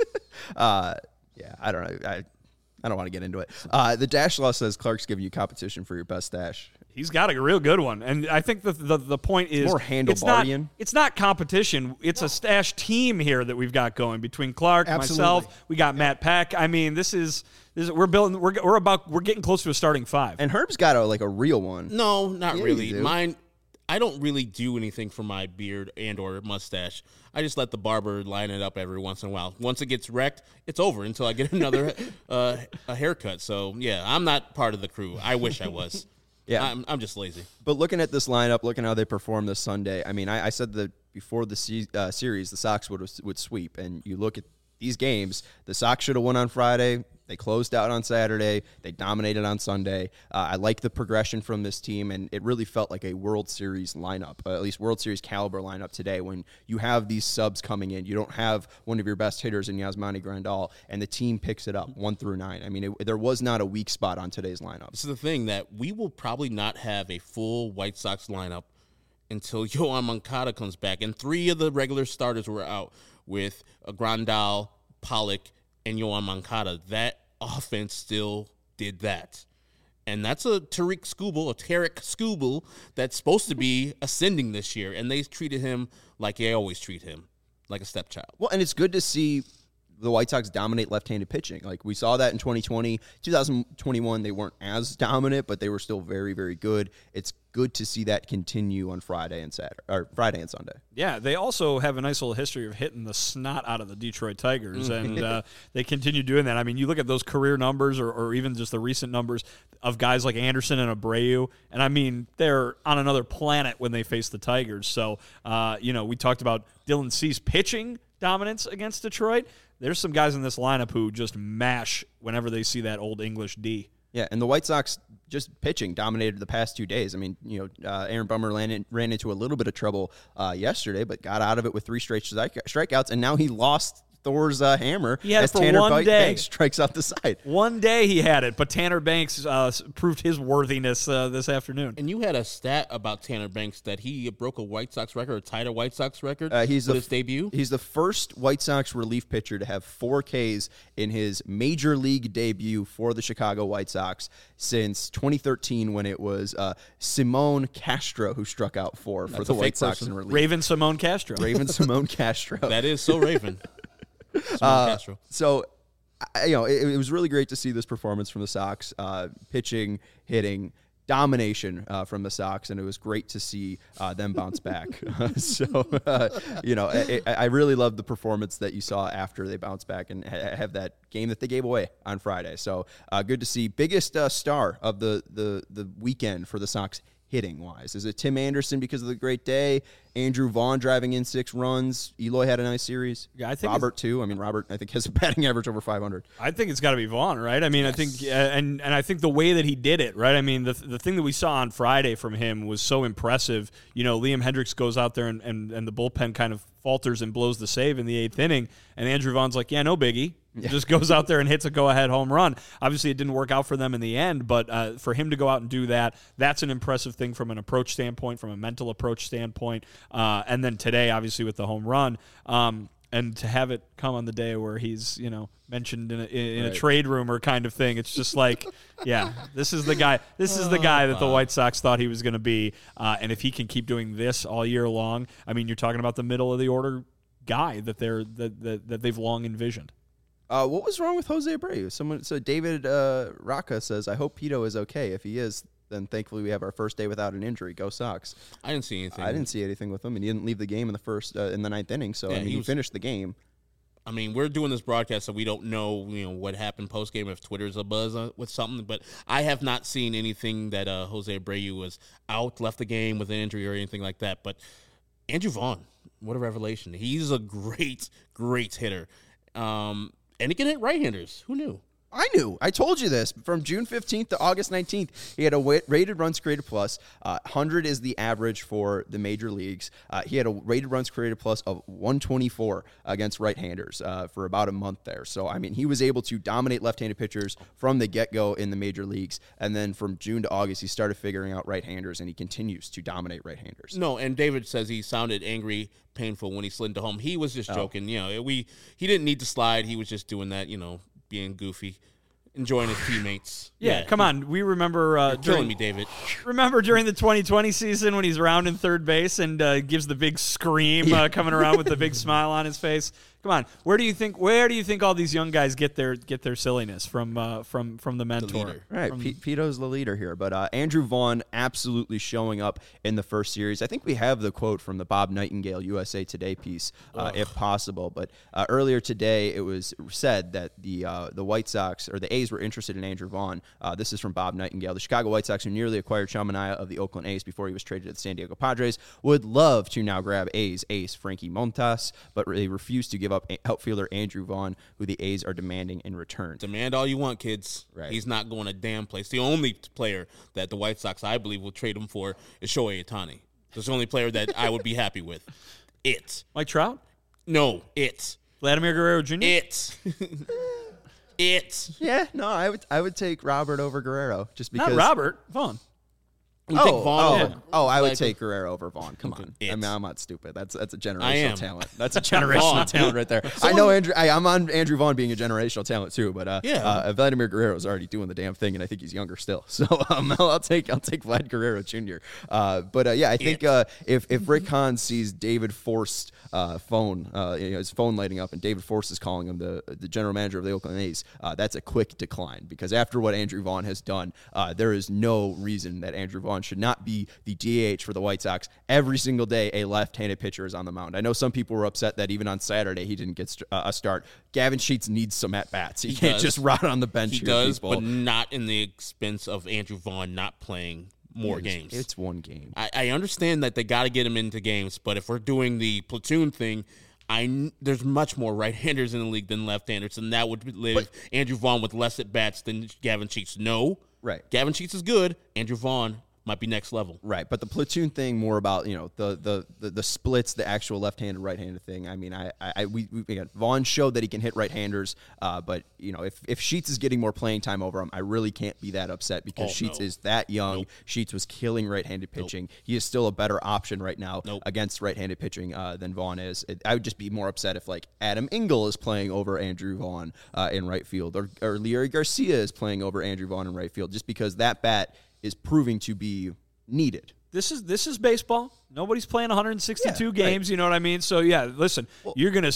uh, yeah, I don't know. I I don't want to get into it. Uh, the Dash Law says Clark's giving you competition for your best stash. He's got a real good one, and I think the the, the point is more handlebardian. It's not, it's not competition. It's no. a stash team here that we've got going between Clark, Absolutely. myself. We got Matt Peck. I mean, this is this is, we're building. We're we're about we're getting close to a starting five. And Herb's got a like a real one. No, not yeah, really. Mine. I don't really do anything for my beard and or mustache. I just let the barber line it up every once in a while. Once it gets wrecked, it's over until I get another uh, a haircut. So yeah, I'm not part of the crew. I wish I was. Yeah, I'm, I'm just lazy. But looking at this lineup, looking how they performed this Sunday, I mean, I, I said that before the se- uh, series, the Sox would would sweep. And you look at these games, the Sox should have won on Friday. They closed out on Saturday. They dominated on Sunday. Uh, I like the progression from this team, and it really felt like a World Series lineup, uh, at least World Series caliber lineup today. When you have these subs coming in, you don't have one of your best hitters in Yasmani Grandal, and the team picks it up one through nine. I mean, it, there was not a weak spot on today's lineup. This is the thing that we will probably not have a full White Sox lineup until Yoan Moncada comes back, and three of the regular starters were out with uh, Grandal, Pollock, and Yoan Moncada. That offense still did that. And that's a Tariq Skubal, a Tarek Skubal that's supposed to be ascending this year. And they treated him like they always treat him, like a stepchild. Well, and it's good to see the White Sox dominate left-handed pitching. Like we saw that in twenty twenty. twenty twenty-one, they weren't as dominant, but they were still very, very good. It's good to see that continue on Friday and Saturday, or Friday and Sunday. Yeah, they also have a nice little history of hitting the snot out of the Detroit Tigers, and uh, they continue doing that. I mean, you look at those career numbers, or, or even just the recent numbers of guys like Anderson and Abreu, and I mean, they're on another planet when they face the Tigers. So, uh, you know, we talked about Dylan Cease pitching dominance against Detroit. There's some guys in this lineup who just mash whenever they see that old English D. Yeah, and the White Sox just pitching dominated the past two days. I mean, you know, uh, Aaron Bummer ran, in, ran into a little bit of trouble uh, yesterday, but got out of it with three straight strike, strikeouts, and now he lost Thor's uh, hammer he had as it for Tanner one Banks day. strikes out the side. One day he had it, but Tanner Banks uh, proved his worthiness uh, this afternoon. And you had a stat about Tanner Banks that he broke a White Sox record, or tied a White Sox record uh, he's with the, his debut. He's the first White Sox relief pitcher to have four Ks in his major league debut for the Chicago White Sox since twenty thirteen, when it was uh, Simone Castro who struck out four for That's the a White fake Sox person. in relief. Raven Simone Castro. Raven Simone Castro. That is so Raven. Uh, so I, you know, it, it was really great to see this performance from the Sox, uh, pitching, hitting, domination uh, from the Sox, and it was great to see uh, them bounce back. so, uh, you know, I, I really loved the performance that you saw after they bounced back and ha- have that game that they gave away on Friday. So, uh, good to see. Biggest uh, star of the, the the weekend for the Sox hitting wise? Is it Tim Anderson because of the great day? Andrew Vaughn driving in six runs. Eloy had a nice series. Yeah, I think Robert too. I mean, Robert I think has a batting average over five hundred. I think it's got to be Vaughn, right? I mean, yes. I think uh, and and I think the way that he did it, right? I mean, the the thing that we saw on Friday from him was so impressive. You know, Liam Hendricks goes out there and and, and the bullpen kind of falters and blows the save in the eighth inning, and Andrew Vaughn's like, yeah, no biggie. Yeah. Just goes out there and hits a go-ahead home run. Obviously, it didn't work out for them in the end, but uh, for him to go out and do that, that's an impressive thing from an approach standpoint, from a mental approach standpoint. Uh, and then today, obviously, with the home run, um, and to have it come on the day where he's, you know, mentioned in a, in right. a trade rumor kind of thing, it's just like, yeah, this is the guy. This is the guy that the White Sox thought he was going to be. Uh, and if he can keep doing this all year long, I mean, you're talking about the middle of the order guy that they're that that, that they've long envisioned. Uh, what was wrong with Jose Abreu? Someone, so David uh, Rocca says, I hope Pito is okay. If he is, then thankfully we have our first day without an injury. Go Sox. I didn't see anything. I didn't see anything with him, and he didn't leave the game in the first uh, in the ninth inning. So yeah, I mean, he, he was, finished the game. I mean, we're doing this broadcast, so we don't know, you know, what happened post game if Twitter's a buzz uh, with something. But I have not seen anything that uh, Jose Abreu was out, left the game with an injury or anything like that. But Andrew Vaughn, what a revelation! He's a great, great hitter. Um, And he can hit right-handers. Who knew? I knew. I told you this. From June fifteenth to August nineteenth, he had a rated runs created plus. Uh, one hundred is the average for the major leagues. Uh, he had a rated runs created plus of one twenty-four against right-handers uh, for about a month there. So, I mean, he was able to dominate left-handed pitchers from the get-go in the major leagues. And then from June to August, he started figuring out right-handers, and he continues to dominate right-handers. No, and David says he sounded angry, painful when he slid into home. He was just oh. joking. You know, we he didn't need to slide. He was just doing that, you know, being goofy, enjoying his teammates. Yeah, yeah. Come on. We remember uh, You're during, killing me, David. Remember during the twenty twenty season when he's rounding third base and uh, gives the big scream, uh, coming around with the big smile on his face. Come on, where do you think where do you think all these young guys get their get their silliness from uh, from from the mentor? The right, from, P- Pito's the leader here, but uh, Andrew Vaughn absolutely showing up in the first series. I think we have the quote from the Bob Nightingale U S A Today piece, uh, if possible. But uh, earlier today, it was said that the uh, the White Sox or the A's were interested in Andrew Vaughn. Uh, this is from Bob Nightingale. The Chicago White Sox, who nearly acquired Sean Manaea of the Oakland A's before he was traded to the San Diego Padres, would love to now grab A's ace Frankie Montas, but they refuse to give up outfielder Andrew Vaughn, who the A's are demanding in return. Demand all you want, kids. Right. He's not going a damn place. The only player that the White Sox, I believe, will trade him for is Shohei Ohtani. That's the only player that I would be happy with. It. Mike Trout? No, it. Vladimir Guerrero Junior? It. it. Yeah, no, I would I would take Robert over Guerrero just because. Not Robert, Vaughn. We oh, take Vaughn oh, over, oh, I would like, take Guerrero over Vaughn. Come on, It. I mean, I'm not stupid. That's that's a I generational am. talent. That's a generational talent right there. I know Andrew. I, I'm on Andrew Vaughn being a generational talent too, but uh, Yeah. uh, Vladimir Guerrero is already doing the damn thing, and I think he's younger still. So um, I'll, I'll take I'll take Vlad Guerrero Junior Uh, but uh, yeah, I think uh, if if Rick Hahn sees David Forst's uh, phone, uh, you know, his phone lighting up, and David Forst is calling him the the general manager of the Oakland A's, uh, that's a quick decline because after what Andrew Vaughn has done, uh, there is no reason that Andrew Vaughn should not be the D H for the White Sox. Every single day, a left-handed pitcher is on the mound. I know some people were upset that even on Saturday he didn't get st- uh, a start. Gavin Sheets needs some at-bats. He, he can't does. just rot on the bench. He here, does, people. but not in the expense of Andrew Vaughn not playing more it's, games. It's one game. I, I understand that they got to get him into games, but if we're doing the platoon thing, I there's much more right-handers in the league than left-handers, and that would leave but, Andrew Vaughn with less at-bats than Gavin Sheets. No. Right. Gavin Sheets is good. Andrew Vaughn might be next level. Right, but the platoon thing more about, you know, the the the, the splits, the actual left-handed, right-handed thing. I mean, I, I we, we got Vaughn showed that he can hit right-handers, uh, but, you know, if, if Sheets is getting more playing time over him, I really can't be that upset because oh, Sheets no. is that young. Nope. Sheets was killing right-handed pitching. Nope. He is still a better option right now nope. against right-handed pitching uh, than Vaughn is. It, I would just be more upset if, like, Adam Engel is playing over Andrew Vaughn uh, in right field, or, or Leury Garcia is playing over Andrew Vaughn in right field, just because that bat is proving to be needed. This is this is baseball. Nobody's playing one hundred sixty-two yeah, games, right. you know what I mean? So, yeah, listen, well, you're going to see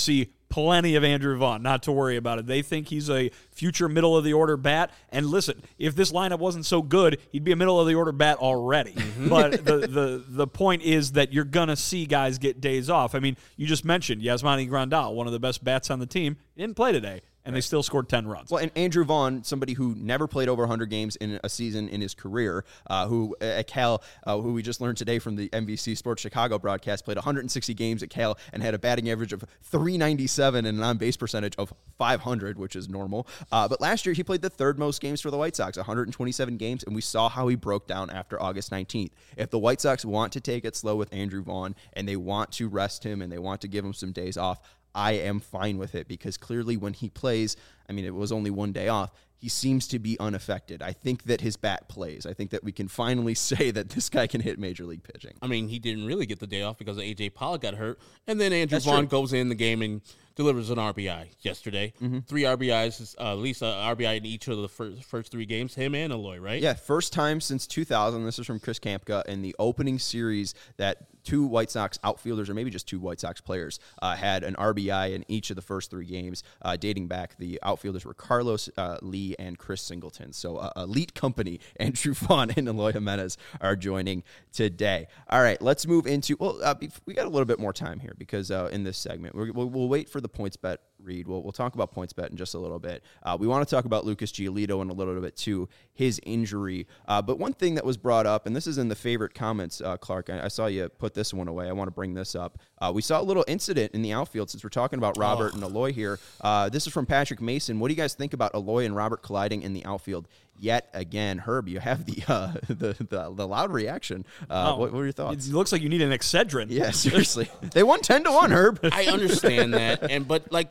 plenty of Andrew Vaughn, not to worry about it. They think he's a future middle-of-the-order bat. And listen, if this lineup wasn't so good, he'd be a middle-of-the-order bat already. Mm-hmm. But the, the, the point is that you're going to see guys get days off. I mean, you just mentioned Yasmani Grandal, one of the best bats on the team, didn't play today. And they still scored ten runs. Well, and Andrew Vaughn, somebody who never played over one hundred games in a season in his career, uh, who at Cal, uh, who we just learned today from the N B C Sports Chicago broadcast, played one hundred sixty games at Cal and had a batting average of three ninety-seven and an on-base percentage of five hundred, which is normal. Uh, but last year, he played the third most games for the White Sox, one hundred twenty-seven games, and we saw how he broke down after August nineteenth. If the White Sox want to take it slow with Andrew Vaughn and they want to rest him and they want to give him some days off, I am fine with it because clearly when he plays, I mean, it was only one day off, he seems to be unaffected. I think that his bat plays. I think that we can finally say that this guy can hit Major League pitching. I mean, he didn't really get the day off because A J Pollock got hurt, and then Andrew That's Vaughn true. goes in the game and delivers an R B I yesterday. Mm-hmm. Three R B Is, uh, at least an R B I in each of the first, first three games, him and Eloy, right? Yeah, first time since two thousand. This is from Chris Kampka in the opening series that two White Sox outfielders, or maybe just two White Sox players, uh, had an R B I in each of the first three games, uh, dating back. The outfielders were Carlos uh, Lee and Chris Singleton. So uh, elite company, Andrew Vaughn and Eloy Jimenez are joining today. All right, let's move into, well, uh, we got a little bit more time here because uh, in this segment, we're, we'll, we'll wait for the PointsBet read. We'll, we'll talk about PointsBet in just a little bit. Uh, we want to talk about Lucas Giolito in a little bit too, his injury. Uh, but one thing that was brought up, and this is in the favorite comments, uh, Clark, I, I saw you put this one away. I want to bring this up. Uh, we saw a little incident in the outfield since we're talking about Robert oh. and Eloy here. Uh, this is from Patrick Mason. What do you guys think about Eloy and Robert colliding in the outfield yet again? Herb, you have the uh, the, the the loud reaction. Uh, oh. what, what are your thoughts? It looks like you need an Excedrin. Yeah, seriously. They won ten to one, Herb. I understand that, and but like,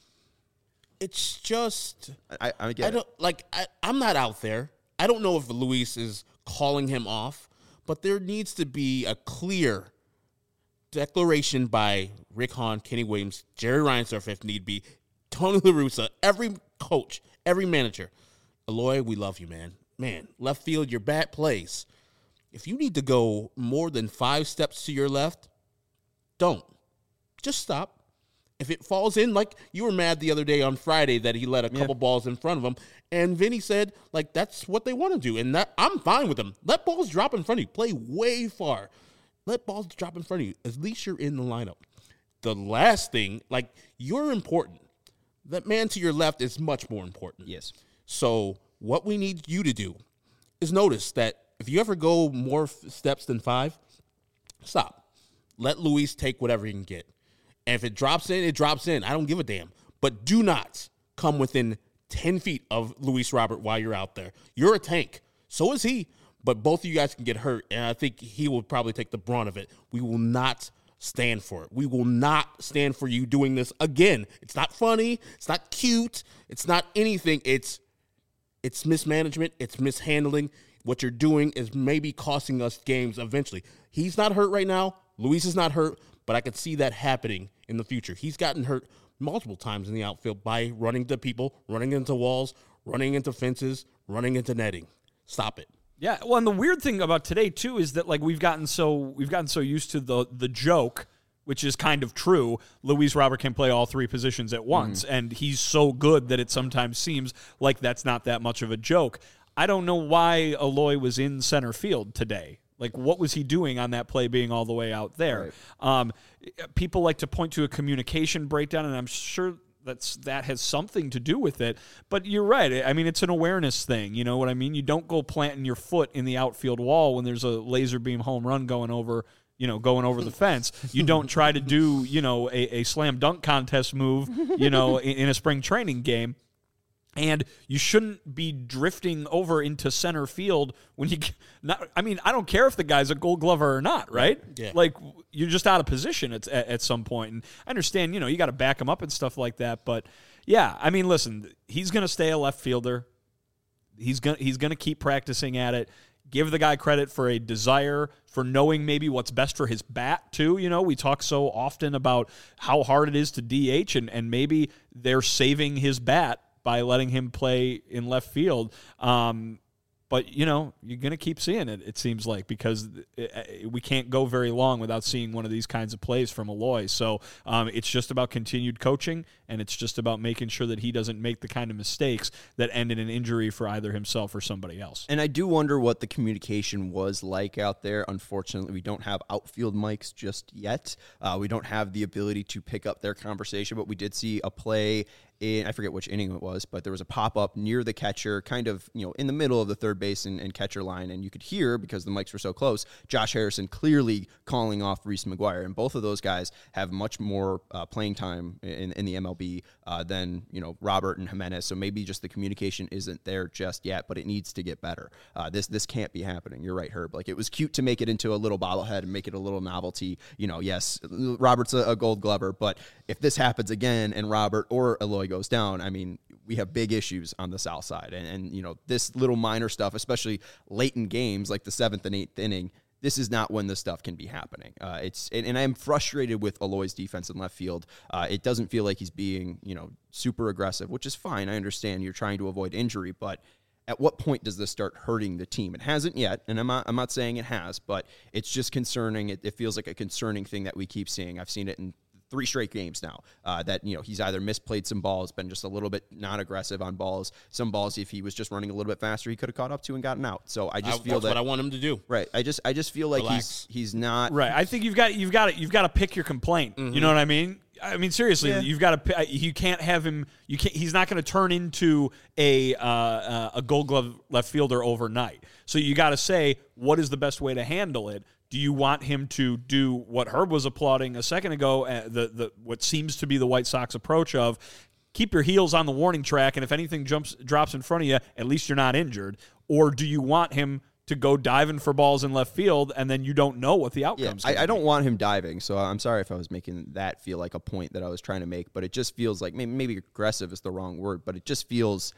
it's just I, I get I don't it. like. I, I'm not out there. I don't know if Luis is calling him off, but there needs to be a clear declaration by Rick Hahn, Kenny Williams, Jerry Reinsdorf, if need be, Tony La Russa, every coach, every manager. Eloy, we love you, man. Man, left field, your bat plays. If you need to go more than five steps to your left, don't. Just stop. If it falls in, like you were mad the other day on Friday that he let a couple yeah. balls in front of him, and Vinny said, like, that's what they want to do, and that I'm fine with them. Let balls drop in front of you. Play way far. Let balls drop in front of you. At least you're in the lineup. The last thing, like, you're important. That man to your left is much more important. Yes. So what we need you to do is notice that if you ever go more f- steps than five, stop. Let Luis take whatever he can get. And if it drops in, it drops in. I don't give a damn. But do not come within ten feet of Luis Robert while you're out there. You're a tank. So is he. But both of you guys can get hurt, and I think he will probably take the brunt of it. We will not stand for it. We will not stand for you doing this again. It's not funny. It's not cute. It's not anything. It's it's mismanagement. It's mishandling. What you're doing is maybe costing us games eventually. He's not hurt right now. Luis is not hurt, but I could see that happening in the future. He's gotten hurt multiple times in the outfield by running into people, running into walls, running into fences, running into netting. Stop it. Yeah, well, and the weird thing about today too is that like we've gotten so we've gotten so used to the the joke, which is kind of true. Luis Robert can play all three positions at once, mm-hmm. and he's so good that it sometimes seems like that's not that much of a joke. I don't know why Eloy was in center field today. Like, what was he doing on that play being all the way out there? Right. Um, people like to point to a communication breakdown, and I'm sure that's that has something to do with it. But you're right. I mean, it's an awareness thing. You know what I mean? You don't go planting your foot in the outfield wall when there's a laser beam home run going over, you know, going over the fence. You don't try to do, you know, a, a slam dunk contest move, you know, in, in a spring training game. And you shouldn't be drifting over into center field when you not. I mean, I don't care if the guy's a Gold Glover or not, right? Yeah. Like, you're just out of position at, at at some point. And I understand, you know, you got to back him up and stuff like that. But yeah, I mean, listen, he's going to stay a left fielder. He's gonna he's gonna keep practicing at it. Give the guy credit for a desire, for knowing maybe what's best for his bat, too. You know, we talk so often about how hard it is to D H, and, and maybe they're saving his bat by letting him play in left field. Um, But, you know, you're going to keep seeing it, it seems like, because we can't go very long without seeing one of these kinds of plays from Eloy. So um, it's just about continued coaching, and it's just about making sure that he doesn't make the kind of mistakes that end in an injury for either himself or somebody else. And I do wonder what the communication was like out there. Unfortunately, we don't have outfield mics just yet. Uh, we don't have the ability to pick up their conversation, but we did see a play in, I forget which inning it was, but there was a pop-up near the catcher, kind of, you know, in the middle of the third base and, and catcher line, and you could hear, because the mics were so close, Josh Harrison clearly calling off Reese McGuire, and both of those guys have much more uh, playing time in, in the M L B uh, than, you know, Robert and Jimenez, so maybe just the communication isn't there just yet, but it needs to get better. Uh, this this can't be happening. You're right, Herb. Like, it was cute to make it into a little bobblehead and make it a little novelty. You know, yes, Robert's a, a gold glover, but if this happens again and Robert or Eloy goes down, I mean, we have big issues on the south side. And, and, you know, this little minor stuff, especially late in games like the seventh and eighth inning, this is not when this stuff can be happening. Uh, it's and, and I'm frustrated with Eloy's defense in left field. Uh, it doesn't feel like he's being, you know, super aggressive, which is fine. I understand you're trying to avoid injury, but at what point does this start hurting the team? It hasn't yet, and I'm not, I'm not saying it has, but it's just concerning. It, it feels like a concerning thing that we keep seeing. I've seen it in three straight games now, uh, that, you know, he's either misplayed some balls, been just a little bit not aggressive on balls. Some balls, if he was just running a little bit faster, he could have caught up to and gotten out. So I just I, feel that's that what I want him to do. Right. I just I just feel like Relax. he's he's not Right. I think you've got you've got to, you've got to pick your complaint. Mm-hmm. You know what I mean? I mean, seriously, Yeah. you've got to. You can't have him. You can't. He's not going to turn into a uh, uh, a Gold Glove left fielder overnight. So you got to say, what is the best way to handle it? Do you want him to do what Herb was applauding a second ago? Uh, the the what seems to be the White Sox approach of keep your heels on the warning track, and if anything jumps drops in front of you, at least you're not injured. Or do you want him to go diving for balls in left field, and then you don't know what the outcome's Yeah, going I, I to be? don't want him diving, so I'm sorry if I was making that feel like a point that I was trying to make, but it just feels like, maybe, maybe aggressive is the wrong word, but it just feels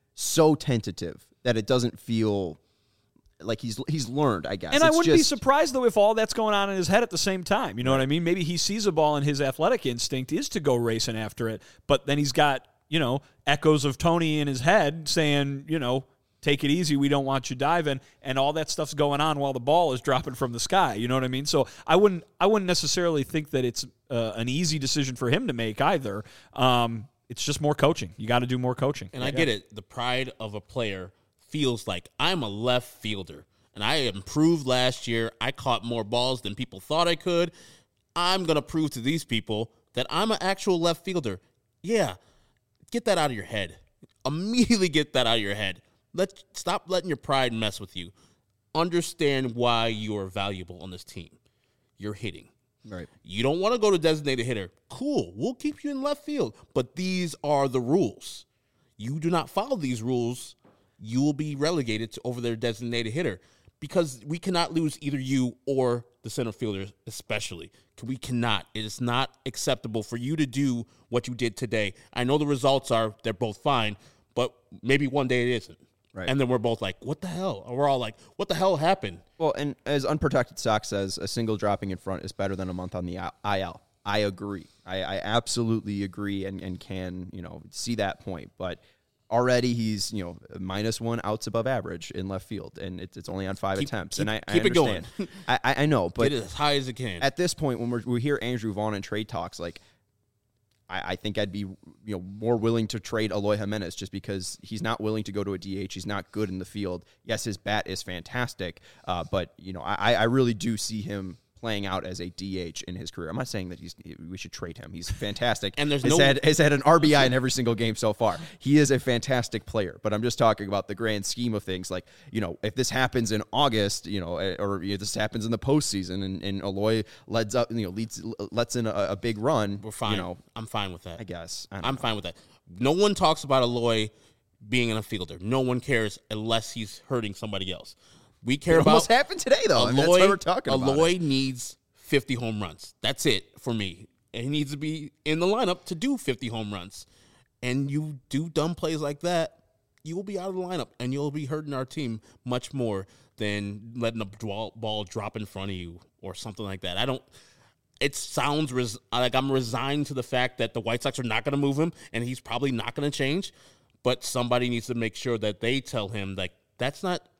so tentative that it doesn't feel like he's he's learned, I guess. And I It's wouldn't be just- surprised, though, if all that's going on in his head at the same time. You know what I mean? Maybe he sees a ball and his athletic instinct is to go racing after it, but then he's got, you know, echoes of Tony in his head saying, you know, take it easy, we don't want you diving, and all that stuff's going on while the ball is dropping from the sky. You know what I mean? So I wouldn't I wouldn't necessarily think that it's uh, an easy decision for him to make either. Um, it's just more coaching. You got to do more coaching. And I get it. The pride of a player feels like I'm a left fielder, and I improved last year. I caught more balls than people thought I could. I'm going to prove to these people that I'm an actual left fielder. Yeah, get that out of your head. Immediately get that out of your head. Let Stop letting your pride mess with you. Understand why you are valuable on this team. You're hitting. Right. You don't want to go to designated hitter. Cool. We'll keep you in left field. But these are the rules. You do not follow these rules, you will be relegated to over their designated hitter, because we cannot lose either you or the center fielder, especially. We cannot. It is not acceptable for you to do what you did today. I know the results are they're both fine, but maybe one day it isn't. Right. And then we're both like, what the hell? Or we're all like, what the hell happened? Well, and as Unprotected Sox says, a single dropping in front is better than a month on the I L. I agree. I, I absolutely agree and, and can, you know, see that point. But already he's, you know, minus one outs above average in left field, and it's, it's only on five Keep- attempts. keep- and I, I keep it going. understand. I, I I know, but Get it as high as it can. at this point, when we're, we hear Andrew Vaughn in trade talks, like, I, I think I'd be, you know, more willing to trade Eloy Jimenez just because he's not willing to go to a D H. He's not good in the field. Yes, his bat is fantastic, uh, but you know, I, I really do see him playing out as a D H in his career. I'm not saying that he's we should trade him. He's fantastic. And there's has no- had, has had an R B I in every single game so far. He is a fantastic player, but I'm just talking about the grand scheme of things. Like, you know, if this happens in August, you know, or you know, this happens in the postseason, and, and Eloy leads up, you know, leads lets in a, a big run. We're fine. You know, I'm fine with that. I guess I don't I'm know. fine with that. No one talks about Eloy being in a fielder. No one cares unless he's hurting somebody else. We care It about almost happened today, though. I mean, that's why we're talking about Eloy it. needs fifty home runs. That's it for me. And he needs to be in the lineup to do fifty home runs. And you do dumb plays like that, you will be out of the lineup, and you'll be hurting our team much more than letting a ball, ball drop in front of you or something like that. I don't. It sounds res- like I'm resigned to the fact that the White Sox are not going to move him, and he's probably not going to change. But somebody needs to make sure that they tell him, like, that's not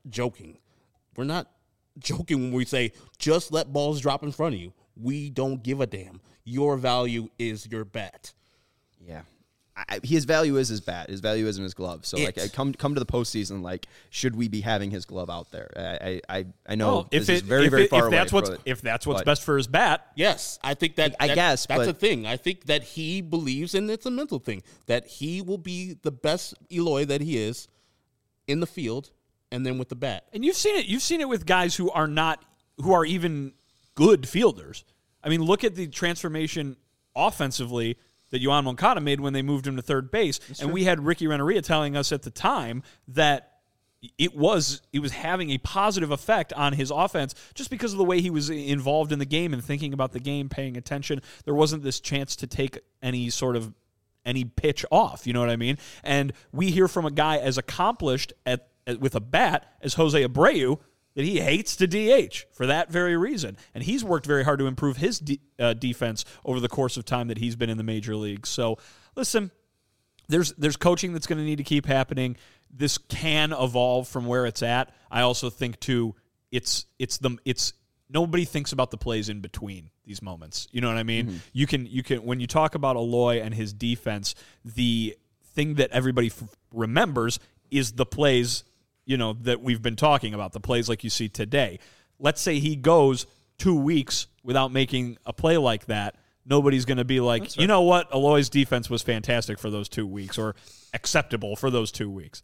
joking. We're not joking when we say just let balls drop in front of you. We don't give a damn. Your value is your bat. Yeah. I, his value is his bat. His value isn't his glove. So, It- like, I come come to the postseason, like, should we be having his glove out there? I I, I know Well, if this it, is very, if very it, far if that's away. what's but- if that's what's but- best for his bat, Yes, I think that. I that- guess, that's but- a thing. I think that he believes, and it's a mental thing, that he will be the best Eloy that he is in the field, and then with the bat. and you've seen it. You've seen it with guys who are not who are even good fielders. I mean, look at the transformation offensively that Yoan Moncada made when they moved him to third base, and we had Ricky Renneria telling us at the time that it was it was having a positive effect on his offense just because of the way he was involved in the game and thinking about the game, paying attention. There wasn't this chance to take any sort of any pitch off, you know what I mean? And we hear from a guy as accomplished at, at with a bat as Jose Abreu that he hates to D H for that very reason. And he's worked very hard to improve his de- uh, defense over the course of time that he's been in the major leagues. So, listen, there's there's coaching that's going to need to keep happening. This can evolve from where it's at. I also think too, it's it's the it's nobody thinks about the plays in between these moments. You know what I mean? Mm-hmm. You can you can when you talk about Eloy and his defense, the thing that everybody f- remembers is the plays, you know, that we've been talking about, the plays like you see today. Let's say he goes two weeks without making a play like that. Nobody's going to be like, right. You know what? Eloy's defense was fantastic for those two weeks or acceptable for those two weeks.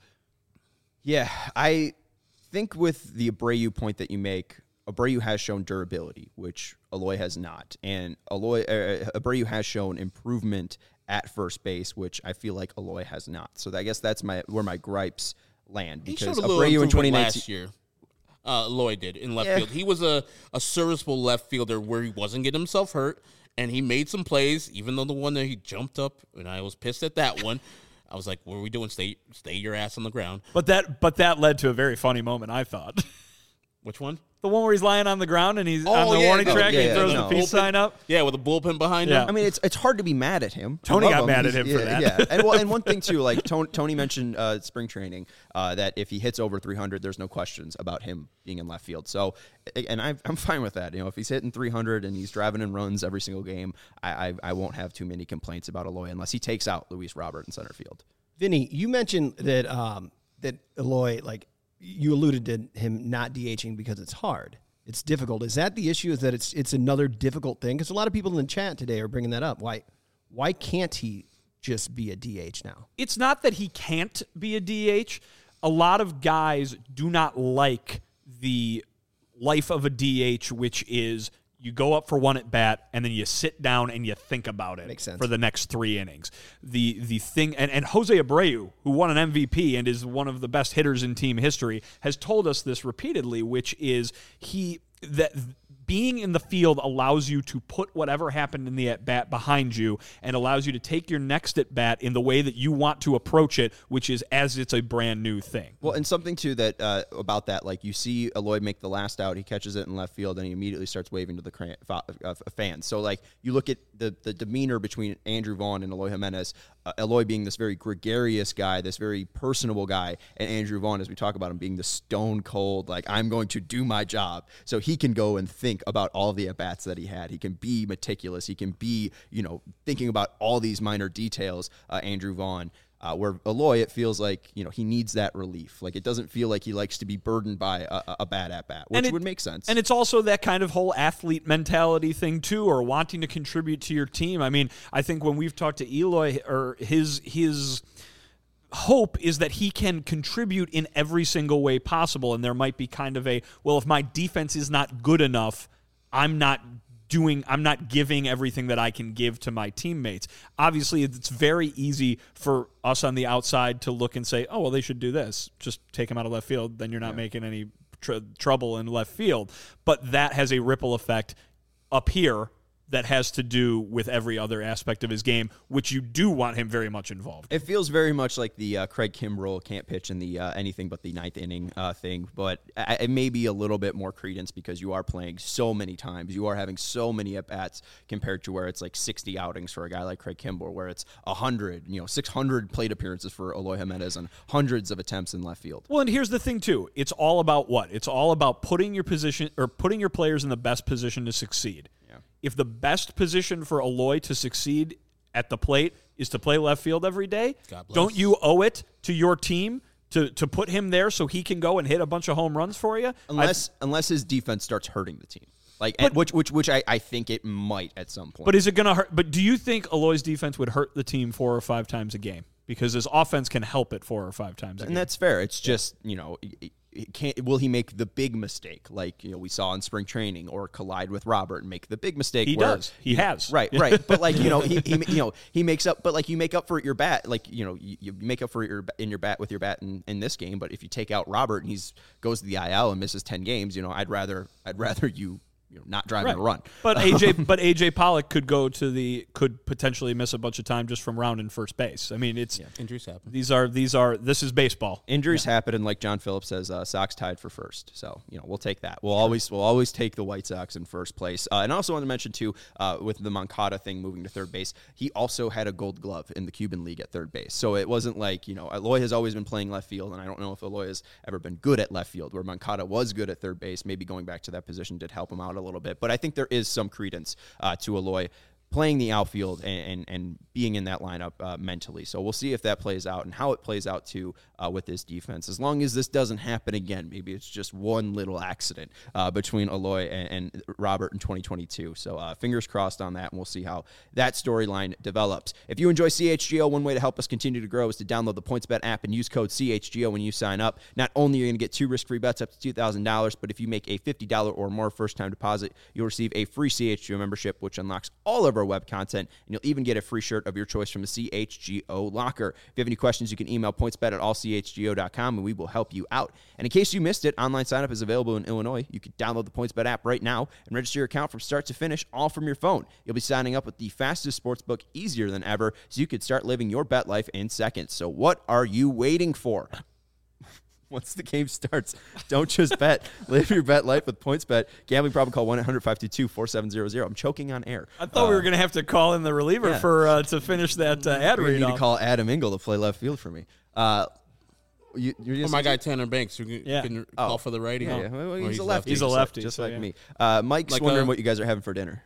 Yeah, I think with the Abreu point that you make, Abreu has shown durability, which Eloy has not. And Eloy, uh, Abreu has shown improvement at first base, which I feel like Eloy has not. So I guess that's my where my gripes land. He Because showed a little Abreu in twenty improvement nineteen last year. Uh, Eloy did in left Yeah. field. He was a, a serviceable left fielder where he wasn't getting himself hurt, and he made some plays, even though the one that he jumped up, and I was pissed at that one. I was like, what are we doing? Stay stay your ass on the ground. But that but that led to a very funny moment, I thought. Which one? The one where he's lying on the ground and he's Oh, on the yeah, warning no, track yeah, and he throws yeah, the no. peace sign up. Yeah, with a bullpen behind Yeah. him. I mean, it's it's hard to be mad at him. I Tony love got him. mad at He's- him for yeah, that. Yeah, and well, and one thing too, like Tony, Tony mentioned uh, spring training, uh, that if he hits over three hundred, there's no questions about him being in left field. So, and I, I'm fine with that. You know, if he's hitting three hundred and he's driving in runs every single game, I, I I won't have too many complaints about Eloy unless he takes out Luis Robert in center field. Vinny, you mentioned that um, that Eloy, like you alluded to him not DHing because it's hard. It's difficult. Is that the issue? Is that it's it's another difficult thing? Because a lot of people in the chat today are bringing that up. Why why can't he just be a D H now? It's not that he can't be a D H. A lot of guys do not like the life of a D H, which is you go up for one at bat and then you sit down and you think about it Makes sense. for the next three innings. The the thing and, and Jose Abreu, who won an M V P and is one of the best hitters in team history, has told us this repeatedly, which is he that being in the field allows you to put whatever happened in the at-bat behind you and allows you to take your next at-bat in the way that you want to approach it, which is as it's a brand new thing. Well, and something, too, that uh, about that, like you see Eloy make the last out, he catches it in left field, and he immediately starts waving to the cran- fa- uh, fans. So, like, you look at the, the demeanor between Andrew Vaughn and Eloy Jimenez, uh, Eloy being this very gregarious guy, this very personable guy, and Andrew Vaughn, as we talk about him, being the stone cold, like, I'm going to do my job. So he can go and think about all of the at-bats that he had. He can be meticulous. He can be, you know, thinking about all these minor details, uh, Andrew Vaughn. Uh, where Eloy, it feels like, you know, he needs that relief. Like, it doesn't feel like he likes to be burdened by a, a bad at-bat, which it, would make sense. And it's also that kind of whole athlete mentality thing, too, or wanting to contribute to your team. I mean, I think when we've talked to Eloy, or his his hope is that he can contribute in every single way possible, and there might be kind of a, well, if my defense is not good enough, I'm not doing, I'm not giving everything that I can give to my teammates. Obviously, it's very easy for us on the outside to look and say, oh, well, they should do this. Just take him out of left field, then you're not yeah. making any tr- trouble in left field. But that has a ripple effect up here that has to do with every other aspect of his game, which you do want him very much involved. It feels very much like the uh, Craig Kimbrell can't pitch in the uh, anything but the ninth inning uh, thing, but I, it may be a little bit more credence because you are playing so many times. You are having so many at-bats compared to where it's like sixty outings for a guy like Craig Kimbrell, where it's one hundred, you know, six hundred plate appearances for Eloy Jimenez and hundreds of attempts in left field. Well, and here's the thing, too. It's all about what? It's all about putting your position or putting your players in the best position to succeed. If the best position for Eloy to succeed at the plate is to play left field every day, don't you owe it to your team to, to put him there so he can go and hit a bunch of home runs for you? Unless I've, unless his defense starts hurting the team. Like but, which which which I, I think it might at some point. But is it going to hurt? But do you think Eloy's defense would hurt the team four or five times a game? Because his offense can help it four or five times a and game. And that's fair. It's just, you know, it, it can't, will he make the big mistake like, you know, we saw in spring training, or collide with Robert and make the big mistake? He where, does. He has. Right, right. But like, you know, he, he you know, he makes up, but like you make up for your bat, like, you know, you, you make up for your in your bat with your bat in, in this game. But if you take out Robert and he's goes to the I L and misses ten games, you know, I'd rather I'd rather you You know, not driving right. a run. But A J but A J Pollock could go to the could potentially miss a bunch of time just from rounding first base. I mean, it's yeah. Injuries happen. These are these are this is baseball. Injuries yeah. happen, and like John Phillips says, uh, Sox tied for first. So you know we'll take that. We'll always we'll always take the White Sox in first place. Uh, and I also want to mention too, uh, with the Moncada thing moving to third base, he also had a Gold Glove in the Cuban League at third base. So it wasn't like, you know, Eloy has always been playing left field, and I don't know if Eloy has ever been good at left field. Where Moncada was good at third base, maybe going back to that position did help him out a little bit. But I think there is some credence uh, to Eloy playing the outfield and, and, and being in that lineup uh, mentally. So we'll see if that plays out and how it plays out too uh, with this defense. As long as this doesn't happen again, maybe it's just one little accident uh, between Eloy and, and Robert in twenty twenty-two. So uh, fingers crossed on that, and we'll see how that storyline develops. If you enjoy C H G O, one way to help us continue to grow is to download the PointsBet app and use code C H G O when you sign up. Not only are you going to get two risk-free bets up to two thousand dollars, but if you make a fifty dollars or more first-time deposit, you'll receive a free C H G O membership, which unlocks all of our web content, and you'll even get a free shirt of your choice from the C H G O locker. If you have any questions, you can email pointsbet at all c h g o dot com, and we will help you out. And in case you missed it, online sign-up is available in Illinois. You can download the PointsBet app right now and register your account from start to finish, all from your phone. You'll be signing up with the fastest sportsbook, easier than ever, so you could start living your bet life in seconds. So what are you waiting for? Once the game starts, don't just bet. Live your bet life with PointsBet. Gambling problem, call one eight hundred five two two four seven zero zero. I'm choking on air. I thought uh, we were going to have to call in the reliever yeah. for uh, to finish that uh, ad read. We need off. to call Adam Engel to play left field for me. Uh, you, you're oh, my guy Tanner Banks, who can, yeah. can oh. call for the righty. Yeah, huh? yeah. Well, he's, he's a lefty. He's a lefty, just so like yeah. me. Uh, Mike's like wondering a, what you guys are having for dinner.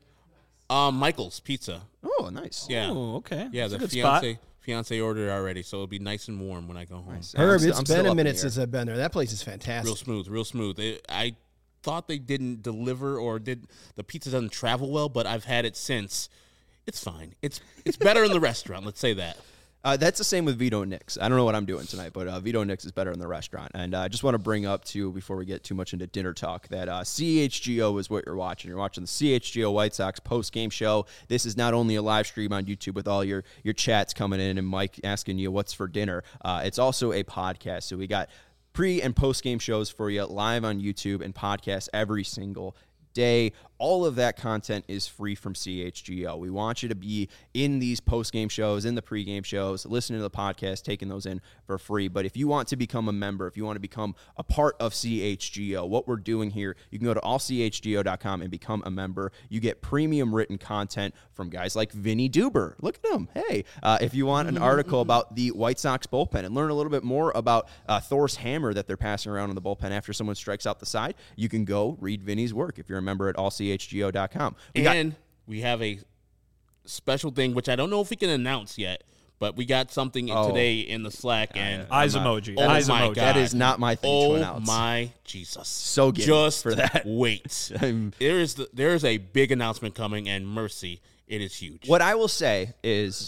Um, Michael's Pizza. Oh, nice. Yeah. Oh, okay. Yeah, That's the a good fiance. spot. Fiance ordered it already, so it'll be nice and warm when I go home. Nice. Herb, I'm it's still, been I'm a minute here. since I've been there. That place is fantastic. Real smooth, real smooth. It, I thought they didn't deliver or did the pizza doesn't travel well, but I've had it since. It's fine. It's it's better in the restaurant. Let's say that. Uh, that's the same with Vito Nix. I don't know what I'm doing tonight, but uh, Vito Nix is better in the restaurant. And uh, I just want to bring up, too, before we get too much into dinner talk, that uh, C H G O is what you're watching. You're watching the C H G O White Sox post-game show. This is not only a live stream on YouTube with all your, your chats coming in and Mike asking you what's for dinner. Uh, it's also a podcast. So we got pre- and post-game shows for you live on YouTube and podcasts every single day. All of that content is free from C H G O. We want you to be in these post-game shows, in the pre-game shows, listening to the podcast, taking those in for free. But if you want to become a member, if you want to become a part of C H G O, what we're doing here, you can go to all c h g o dot com and become a member. You get premium written content from guys like Vinny Duber. Look at him. Hey, uh, if you want an article about the White Sox bullpen and learn a little bit more about uh, Thor's hammer that they're passing around in the bullpen after someone strikes out the side, you can go read Vinny's work if you're a member at all c h g o dot com. We and got, we have a special thing, which I don't know if we can announce yet, but we got something oh. today in the Slack. and Eyes not, emoji. Oh Eyes my emoji. God. That is not my thing oh to announce. my Jesus. So good Just for that. wait. I'm, there is the, there is a big announcement coming, and mercy, it is huge. what I will say is,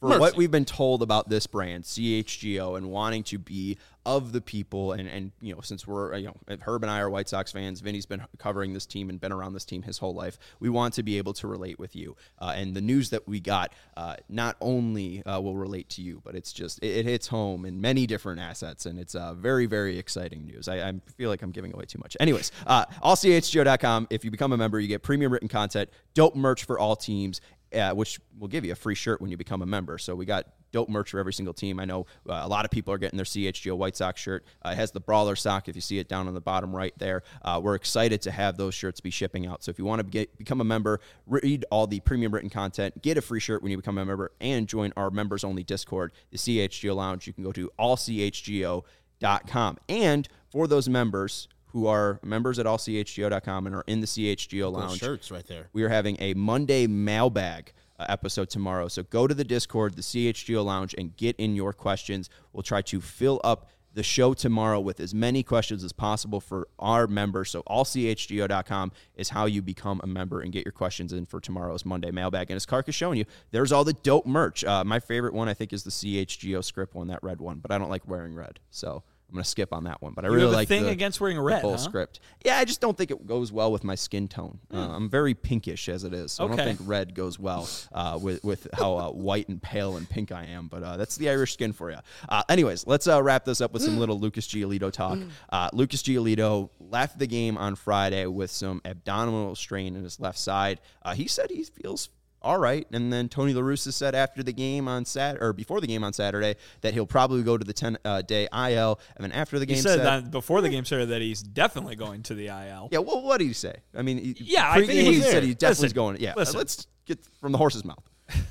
for Mercy. what we've been told about this brand, C H G O, and wanting to be of the people, and, and you know, since we're, you know, Herb and I are White Sox fans, Vinny's been covering this team and been around this team his whole life, we want to be able to relate with you. Uh, and the news that we got uh, not only uh, will relate to you, but it's just, it, it hits home in many different assets, and it's uh, very, very exciting news. I, I feel like I'm giving away too much. Anyways, uh, all C H G O dot com, if you become a member, you get premium written content, dope merch for all teams, Uh, which will give you a free shirt when you become a member. So we got dope merch for every single team. I know uh, a lot of people are getting their C H G O White Sox shirt. Uh, it has the Brawler sock, if you see it down on the bottom right there. Uh, we're excited to have those shirts be shipping out. So if you want to get, become a member, read all the premium written content, get a free shirt when you become a member, and join our members-only Discord, the C H G O Lounge, you can go to all C H G O dot com. And for those members who are members at all C H G O dot com and are in the C H G O Lounge. Those shirts right there. We are having a Monday mailbag uh, episode tomorrow. So go to the Discord, the C H G O Lounge, and get in your questions. We'll try to fill up the show tomorrow with as many questions as possible for our members. So all C H G O dot com is how you become a member and get your questions in for tomorrow's Monday mailbag. And as Kark is showing you, there's all the dope merch. Uh, my favorite one, I think, is the C H G O script one, that red one, but I don't like wearing red. So I'm going to skip on that one, but I You really have a like thing the, against wearing the red, full huh? script. Yeah, I just don't think it goes well with my skin tone. Uh, I'm very pinkish as it is, so I Okay. don't think red goes well uh, with with how uh, white and pale and pink I am. But uh, that's the Irish skin for you. Uh, anyways, let's uh, wrap this up with some little Lucas Giolito talk. Uh, Lucas Giolito left the game on Friday with some abdominal strain in his left side. Uh, he said he feels all right. And then Tony La Russa said after the game on Sat or before the game on Saturday that he'll probably go to the ten uh, day I L. And then after the game He said, said, that before the game started that he's definitely going to the I L. yeah, well, what did he say? I mean, he, Yeah, I pre-game think he was he said there. he definitely Listen, is going. Yeah, listen. let's get from the horse's mouth.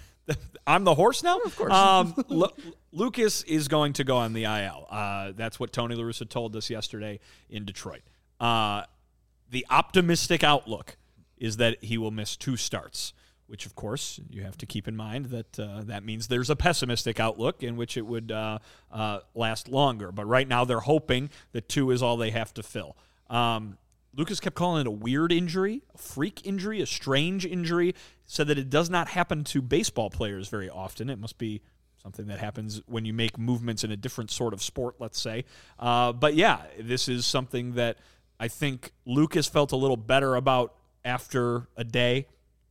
I'm the horse now? Of course. Um, Lu- Lucas is going to go on the I L. Uh, that's what Tony La Russa told us yesterday in Detroit. Uh, the optimistic outlook is that he will miss two starts, which, of course, you have to keep in mind that uh, that means there's a pessimistic outlook in which it would uh, uh, last longer. But right now they're hoping that two is all they have to fill. Um, Lucas kept calling it a weird injury, a freak injury, a strange injury, said that it does not happen to baseball players very often. It must be something that happens when you make movements in a different sort of sport, let's say. Uh, but, yeah, this is something that I think Lucas felt a little better about after a day.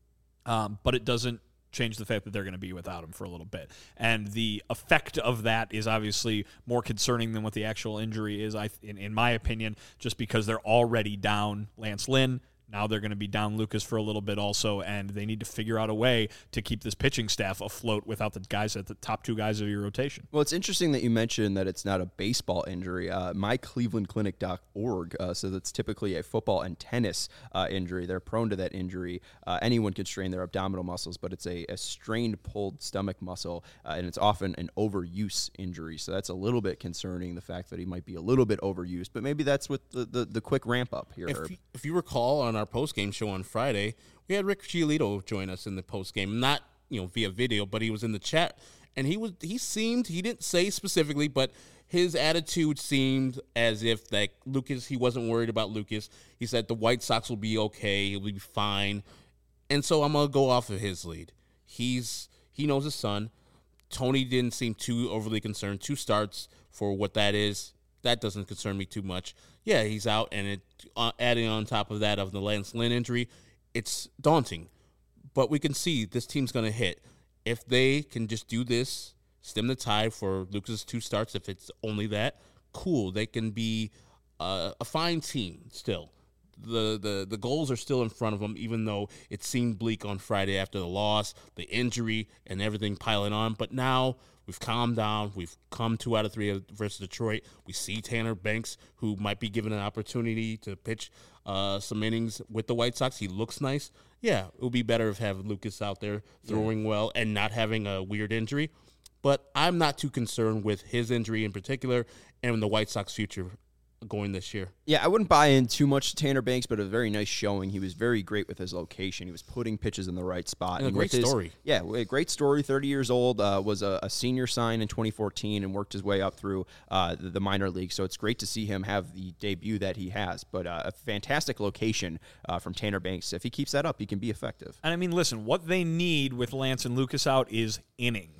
Um, but it doesn't change the fact that they're going to be without him for a little bit. And the effect of that is obviously more concerning than what the actual injury is, I, in, in my opinion, just because they're already down Lance Lynn. Now they're going to be down Lucas for a little bit also, and they need to figure out a way to keep this pitching staff afloat without the guys at the top two guys of your rotation. Well, it's interesting that you mentioned that it's not a baseball injury. Uh, my cleveland clinic dot org uh, says it's typically a football and tennis uh, injury. They're prone to that injury. Uh, anyone can strain their abdominal muscles, but it's a, a strained, pulled stomach muscle, uh, and it's often an overuse injury. So that's a little bit concerning, the fact that he might be a little bit overused. But maybe that's with the, the, the quick ramp up here, If Herb. you, if you recall, on our post-game show on Friday, we had Rick Giolito join us in the post-game, not you know via video, but he was in the chat, and he was he seemed he didn't say specifically, but his attitude seemed as if like Lucas, he wasn't worried about Lucas. He said the White Sox will be okay, he'll be fine, and so I'm gonna go off of his lead. He's he knows his son. Tony didn't seem too overly concerned. Two starts for what that is. That doesn't concern me too much. Yeah, he's out, and it uh, adding on top of that of the Lance Lynn injury, it's daunting. But we can see this team's going to hit. If they can just do this, stem the tide for Lucas' two starts, if it's only that, cool. They can be uh, a fine team still. The, the the goals are still in front of them, even though it seemed bleak on Friday after the loss, the injury, and everything piling on. But now we've calmed down. We've come two out of three versus Detroit. We see Tanner Banks, who might be given an opportunity to pitch uh, some innings with the White Sox. He looks nice. Yeah, it would be better if have Lucas out there throwing yeah. well and not having a weird injury. But I'm not too concerned with his injury in particular and the White Sox future going this year. Yeah, I wouldn't buy in too much to Tanner Banks, but a very nice showing. He was very great with his location. He was putting pitches in the right spot. And a and great his, story. Yeah, a great story. thirty years old, uh, was a, a senior sign in twenty fourteen and worked his way up through uh, the, the minor league. So it's great to see him have the debut that he has. But uh, a fantastic location uh, from Tanner Banks. If he keeps that up, he can be effective. And I mean, listen, what they need with Lance and Lucas out is innings.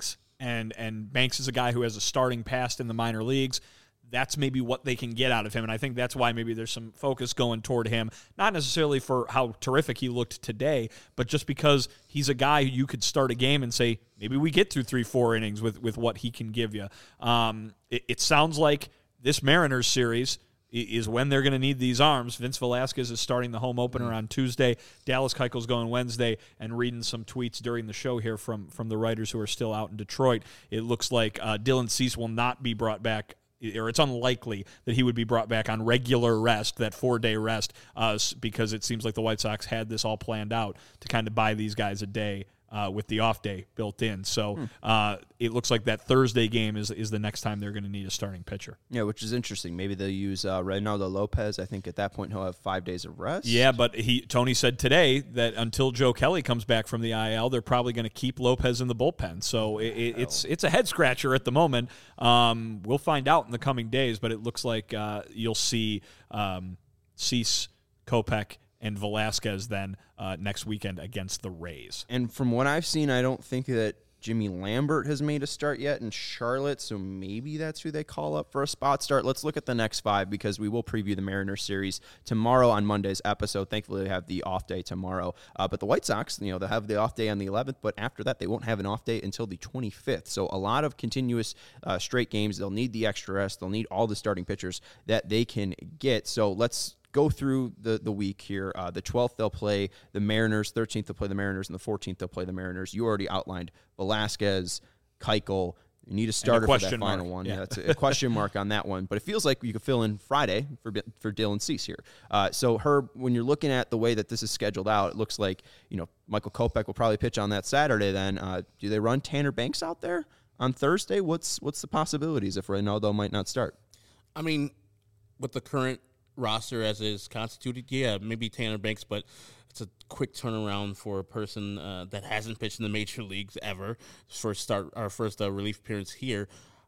and and Banks is a guy who has a starting past in the minor leagues. That's maybe what they can get out of him, and I think that's why maybe there's some focus going toward him, not necessarily for how terrific he looked today, but just because he's a guy who you could start a game and say, maybe we get through three, four innings with, with what he can give you. Um, it, it sounds like this Mariners series is when they're going to need these arms. Vince Velasquez is starting the home opener on Tuesday. Dallas Keuchel's going Wednesday, and reading some tweets during the show here from, from the writers who are still out in Detroit, it looks like uh, Dylan Cease will not be brought back, or it's unlikely that he would be brought back on regular rest, that four-day rest, uh, because it seems like the White Sox had this all planned out to kind of buy these guys a day uh, with the off day built in. So hmm. uh, it looks like that Thursday game is is the next time they're going to need a starting pitcher. Yeah, which is interesting. Maybe they'll use uh, Reynaldo Lopez. I think at that point he'll have five days of rest. Yeah, but he Tony said today that until Joe Kelly comes back from the I L, they're probably going to keep Lopez in the bullpen. So it, it, it's it's a head scratcher at the moment. Um, we'll find out in the coming days, but it looks like uh, you'll see um, Cease, Kopech, and Velasquez then uh, next weekend against the Rays. And from what I've seen, I don't think that Jimmy Lambert has made a start yet in Charlotte, so maybe that's who they call up for a spot start. Let's look at the next five because we will preview the Mariners series tomorrow on Monday's episode. Thankfully, they have the off day tomorrow. Uh, but the White Sox, you know, they'll have the off day on the eleventh, but after that, they won't have an off day until the twenty-fifth. So a lot of continuous uh, straight games. They'll need the extra rest. They'll need all the starting pitchers that they can get. So let's go through the, the week here. Uh, the twelfth, they'll play the Mariners. thirteenth, they'll play the Mariners. And the fourteenth, they'll play the Mariners. You already outlined Velasquez, Keuchel. You need a starter a for that final mark. one. Yeah, yeah that's a question mark on that one. But it feels like you could fill in Friday for for Dylan Cease here. Uh, so, Herb, when you're looking at the way that this is scheduled out, it looks like, you know, Michael Kopech will probably pitch on that Saturday then. Uh, do they run Tanner Banks out there on Thursday? What's, what's the possibilities if Reynaldo might not start? I mean, with the current roster as is constituted, yeah, maybe Tanner Banks, but it's a quick turnaround for a person uh, that hasn't pitched in the major leagues ever. First start, our first uh, relief appearance here.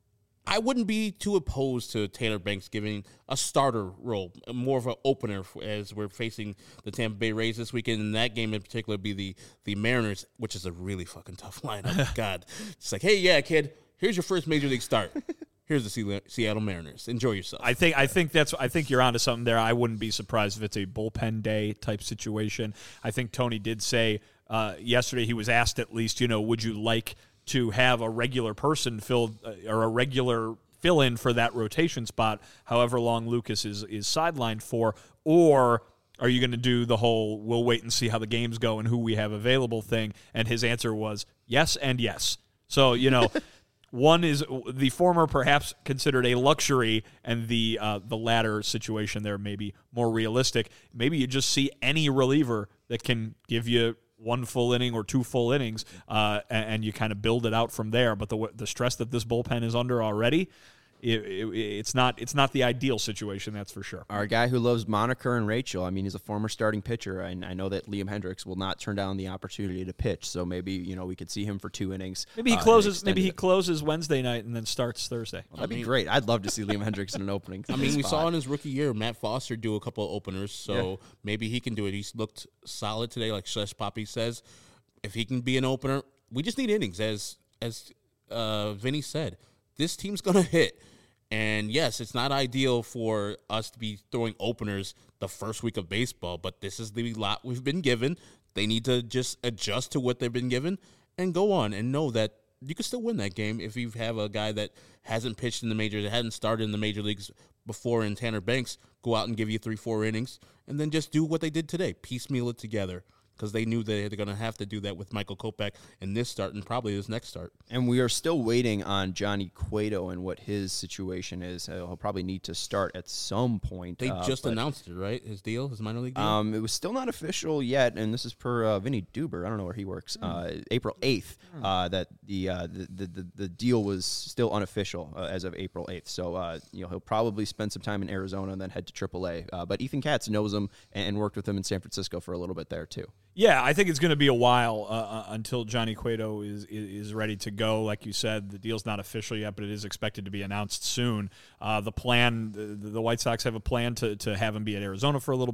I wouldn't be too opposed to Tanner Banks giving a starter role, more of an opener as we're facing the Tampa Bay Rays this weekend. And that game in particular be the the Mariners, which is a really fucking tough lineup. God, it's like, hey, yeah, kid, here's your first major league start. Here's the Seattle Mariners. Enjoy yourself. I think I think that's I think you're onto something there. I wouldn't be surprised if it's a bullpen day type situation. I think Tony did say uh, yesterday, he was asked at least, you know, would you like to have a regular person fill uh, or a regular fill in for that rotation spot, however long Lucas is is sidelined for, or are you going to do the whole we'll wait and see how the games go and who we have available thing? And his answer was yes and yes. So, you know. One is the former perhaps considered a luxury, and the uh, the latter situation there may be more realistic. Maybe you just see any reliever that can give you one full inning or two full innings, uh, and, and you kind of build it out from there. But the the stress that this bullpen is under already, it, it, it's not it's not the ideal situation, that's for sure. Our guy who loves Moniker and Rachel, I mean, he's a former starting pitcher, and I know that Liam Hendricks will not turn down the opportunity to pitch. So maybe, you know, we could see him for two innings. Maybe he uh, closes. Maybe he closes Wednesday night and then starts Thursday. Well, that'd be great. I'd love to see Liam Hendricks in an opening. I mean, we spot. saw in his rookie year Matt Foster do a couple of openers, so Yeah. maybe he can do it. He's looked solid today, like Shesh Poppy says. If he can be an opener, we just need innings, as as uh, Vinny said. This team's gonna hit. And yes, it's not ideal for us to be throwing openers the first week of baseball, but this is the lot we've been given. They need to just adjust to what they've been given and go on and know that you can still win that game if you have a guy that hasn't pitched in the majors, that hasn't started in the major leagues before in Tanner Banks, go out and give you three, four innings, and then just do what they did today, piecemeal it together. Because they knew they were going to have to do that with Michael Kopech in this start and probably his next start. And we are still waiting on Johnny Cueto and what his situation is. Uh, he'll probably need to start at some point. They uh, just but, announced it, right? His deal, his minor league deal? Um, it was still not official yet, and this is per uh, Vinny Duber. I don't know where he works. Mm. Uh, April eighth, mm. uh, that the, uh, the, the, the the deal was still unofficial uh, as of April eighth. So uh, you know he'll probably spend some time in Arizona and then head to triple A. Uh, but Ethan Katz knows him and worked with him in San Francisco for a little bit there too. Yeah, I think it's going to be a while uh, uh, until Johnny Cueto is, is is ready to go. Like you said, the deal's not official yet, but it is expected to be announced soon. Uh, the plan, the, the White Sox have a plan to, to have him be at Arizona for a little bit,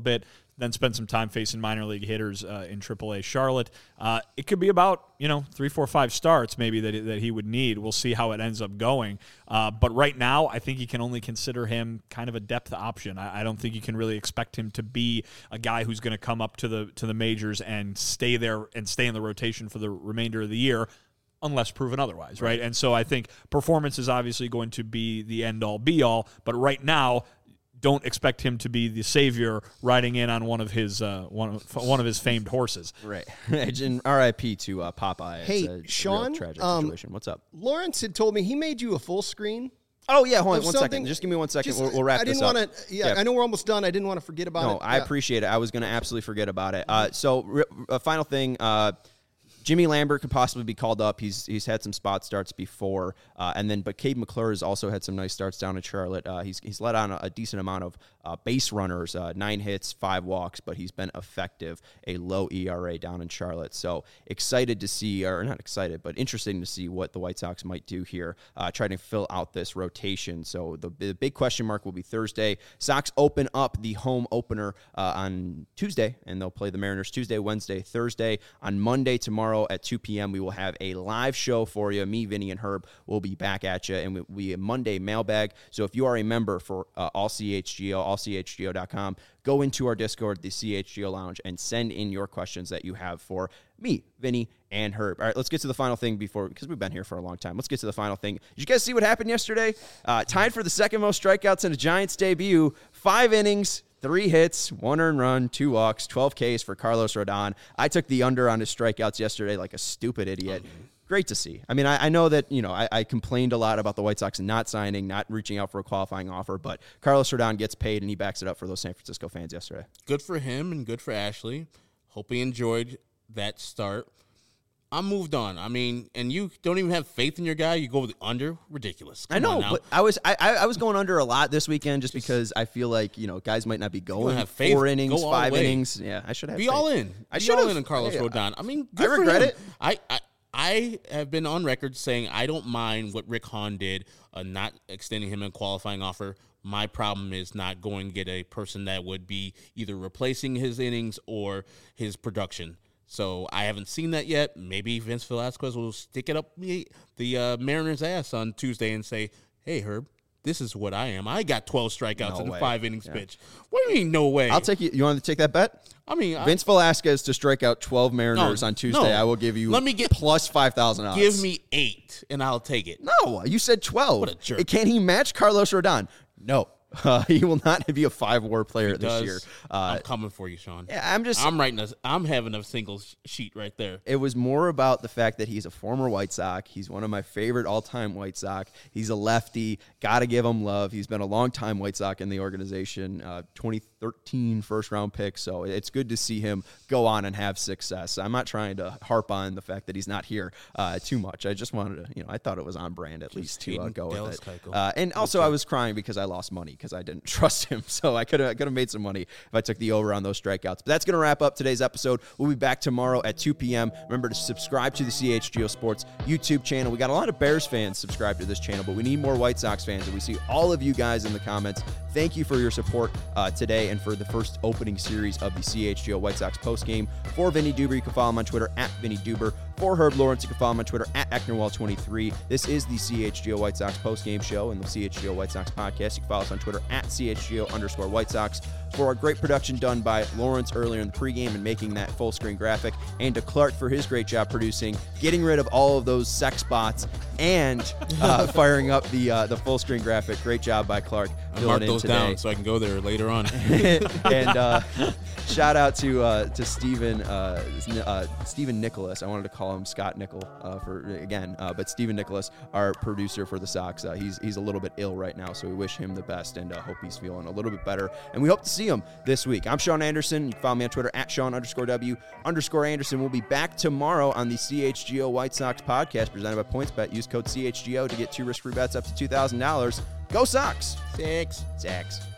then spend some time facing minor league hitters uh, in triple A Charlotte. Uh, it could be about, you know, three, four, five starts maybe that, that he would need. We'll see how it ends up going. Uh, but right now, I think you can only consider him kind of a depth option. I, I don't think you can really expect him to be a guy who's going to come up to the to the majors and stay there and stay in the rotation for the remainder of the year, unless proven otherwise, right? And so I think performance is obviously going to be the end-all, be-all, but right now, don't expect him to be the savior riding in on one of his uh, one of, one of his famed horses. Right. And R I P to uh, Popeye. Hey, it's a, it's Sean, a real tragic um, situation. What's up? Lawrence had told me he made you a full screen. Oh, yeah, hold on of one something. second. Just give me one second. Just- We'll, we'll wrap I didn't this up. want to. Yeah, Yeah. I know we're almost done. I didn't want to forget about No, it. I Yeah. appreciate it. I was going to absolutely forget about it. Uh, so, re- a final thing. Uh, Jimmy Lambert could possibly be called up. He's he's had some spot starts before, uh, and then but Cade McClure has also had some nice starts down in Charlotte. Uh, he's he's let on a, a decent amount of uh, base runners, uh, nine hits, five walks, but he's been effective. A low E R A down in Charlotte. So excited to see, or not excited, but interesting to see what the White Sox might do here, uh, trying to fill out this rotation. So the, the big question mark will be Thursday. Sox open up the home opener uh, on Tuesday, and they'll play the Mariners Tuesday, Wednesday, Thursday. On Monday, tomorrow at two p.m., we will have a live show for you. Me, Vinny, and Herb will be back at you, and it will be a Monday mailbag. So if you are a member for uh, All C H G O, all c h g o dot com, go into our Discord, the C H G O Lounge, and send in your questions that you have for me, Vinny, and Herb. All right, let's get to the final thing before, because we've been here for a long time. Let's get to the final thing. Did you guys see what happened yesterday? Uh, tied for the second most strikeouts in a Giants debut. Five innings, three hits, one earned run, two walks, twelve Ks for Carlos Rodon. I took the under on his strikeouts yesterday like a stupid idiot. Great to see. I mean, I, I know that, you know, I, I complained a lot about the White Sox not signing, not reaching out for a qualifying offer, but Carlos Rodon gets paid, and he backs it up for those San Francisco fans yesterday. Good for him and good for Ashley. Hope he enjoyed that start. I'm moved on. I mean, and you don't even have faith in your guy. You go with the under. Ridiculous. Come I know, on now. but I was I, I was going under a lot this weekend just because I feel like, you know, guys might not be going have faith, four innings, go all five the way. innings. Yeah, I should have Be faith. all in. I Be should all have. in on Carlos Hey, Rodon. I mean, I good for regret him. it. I, I I have been on record saying I don't mind what Rick Hahn did, uh, not extending him a qualifying offer. My problem is not going to get a person that would be either replacing his innings or his production. So I haven't seen that yet. Maybe Vince Velasquez will stick it up the, the uh, Mariners' ass on Tuesday and say, hey, Herb, this is what I am. I got twelve strikeouts No in way. a five innings Yeah. pitch. What do you mean, no way? I'll take you. You want to take that bet? I mean, I- Vince Velasquez to strike out twelve Mariners No, on Tuesday. no. I will give you Let me get- plus five thousand odds. give me eight, and I'll take it. No, you said twelve. What a jerk. Can he match Carlos Rodon? No. Uh, he will not be a five WAR player this Does. year. Uh, I'm coming for you, Sean. yeah, I'm just. I'm writing. A, I'm having a single sh- sheet right there. It was more about the fact that he's a former White Sox. He's one of my favorite all-time White Sox. He's a lefty. Got to give him love. He's been a long-time White Sox in the organization, uh, twenty thirteen first-round pick. So it's good to see him go on and have success. I'm not trying to harp on the fact that he's not here uh, too much. I just wanted to, you know, I thought it was on brand at least to uh, hating go with Dallas it. Keuchel. Uh, and also, I was crying because I lost money because I didn't trust him. So I could have could have made some money if I took the over on those strikeouts. But that's going to wrap up today's episode. We'll be back tomorrow at two p.m. Remember to subscribe to the C H G O Sports YouTube channel. We got a lot of Bears fans subscribed to this channel, but we need more White Sox fans, and we see all of you guys in the comments. Thank you for your support uh, today and for the first opening series of the C H G O White Sox postgame. For Vinny Duber, you can follow him on Twitter at Vinny Duber. For Herb Lawrence, you can follow him on Twitter at Ecknerwall twenty-three. This is the C H G O White Sox postgame show and the C H G O White Sox podcast. You can follow us on Twitter at C H G O underscore White Sox. For our great production done by Lawrence earlier in the pregame and making that full screen graphic, and to Clark for his great job producing, getting rid of all of those sex bots, and uh, firing up the uh, the full screen graphic. Great job by Clark. I marked those down so I can go there later on. and uh, shout out to uh, to Stephen uh, uh, Stephen Nicholas. I wanted to call him Scott Nickel uh, for again, uh, but Stephen Nicholas, our producer for the Sox. Uh, he's he's a little bit ill right now, so we wish him the best and uh, hope he's feeling a little bit better. And we hope to see him this week. I'm Sean Anderson. You can follow me on Twitter at Sean underscore W underscore Anderson. We'll be back tomorrow on the C H G O White Sox podcast presented by PointsBet. Use code C H G O to get two risk-free bets up to two thousand dollars. Go Sox! Six. Zax.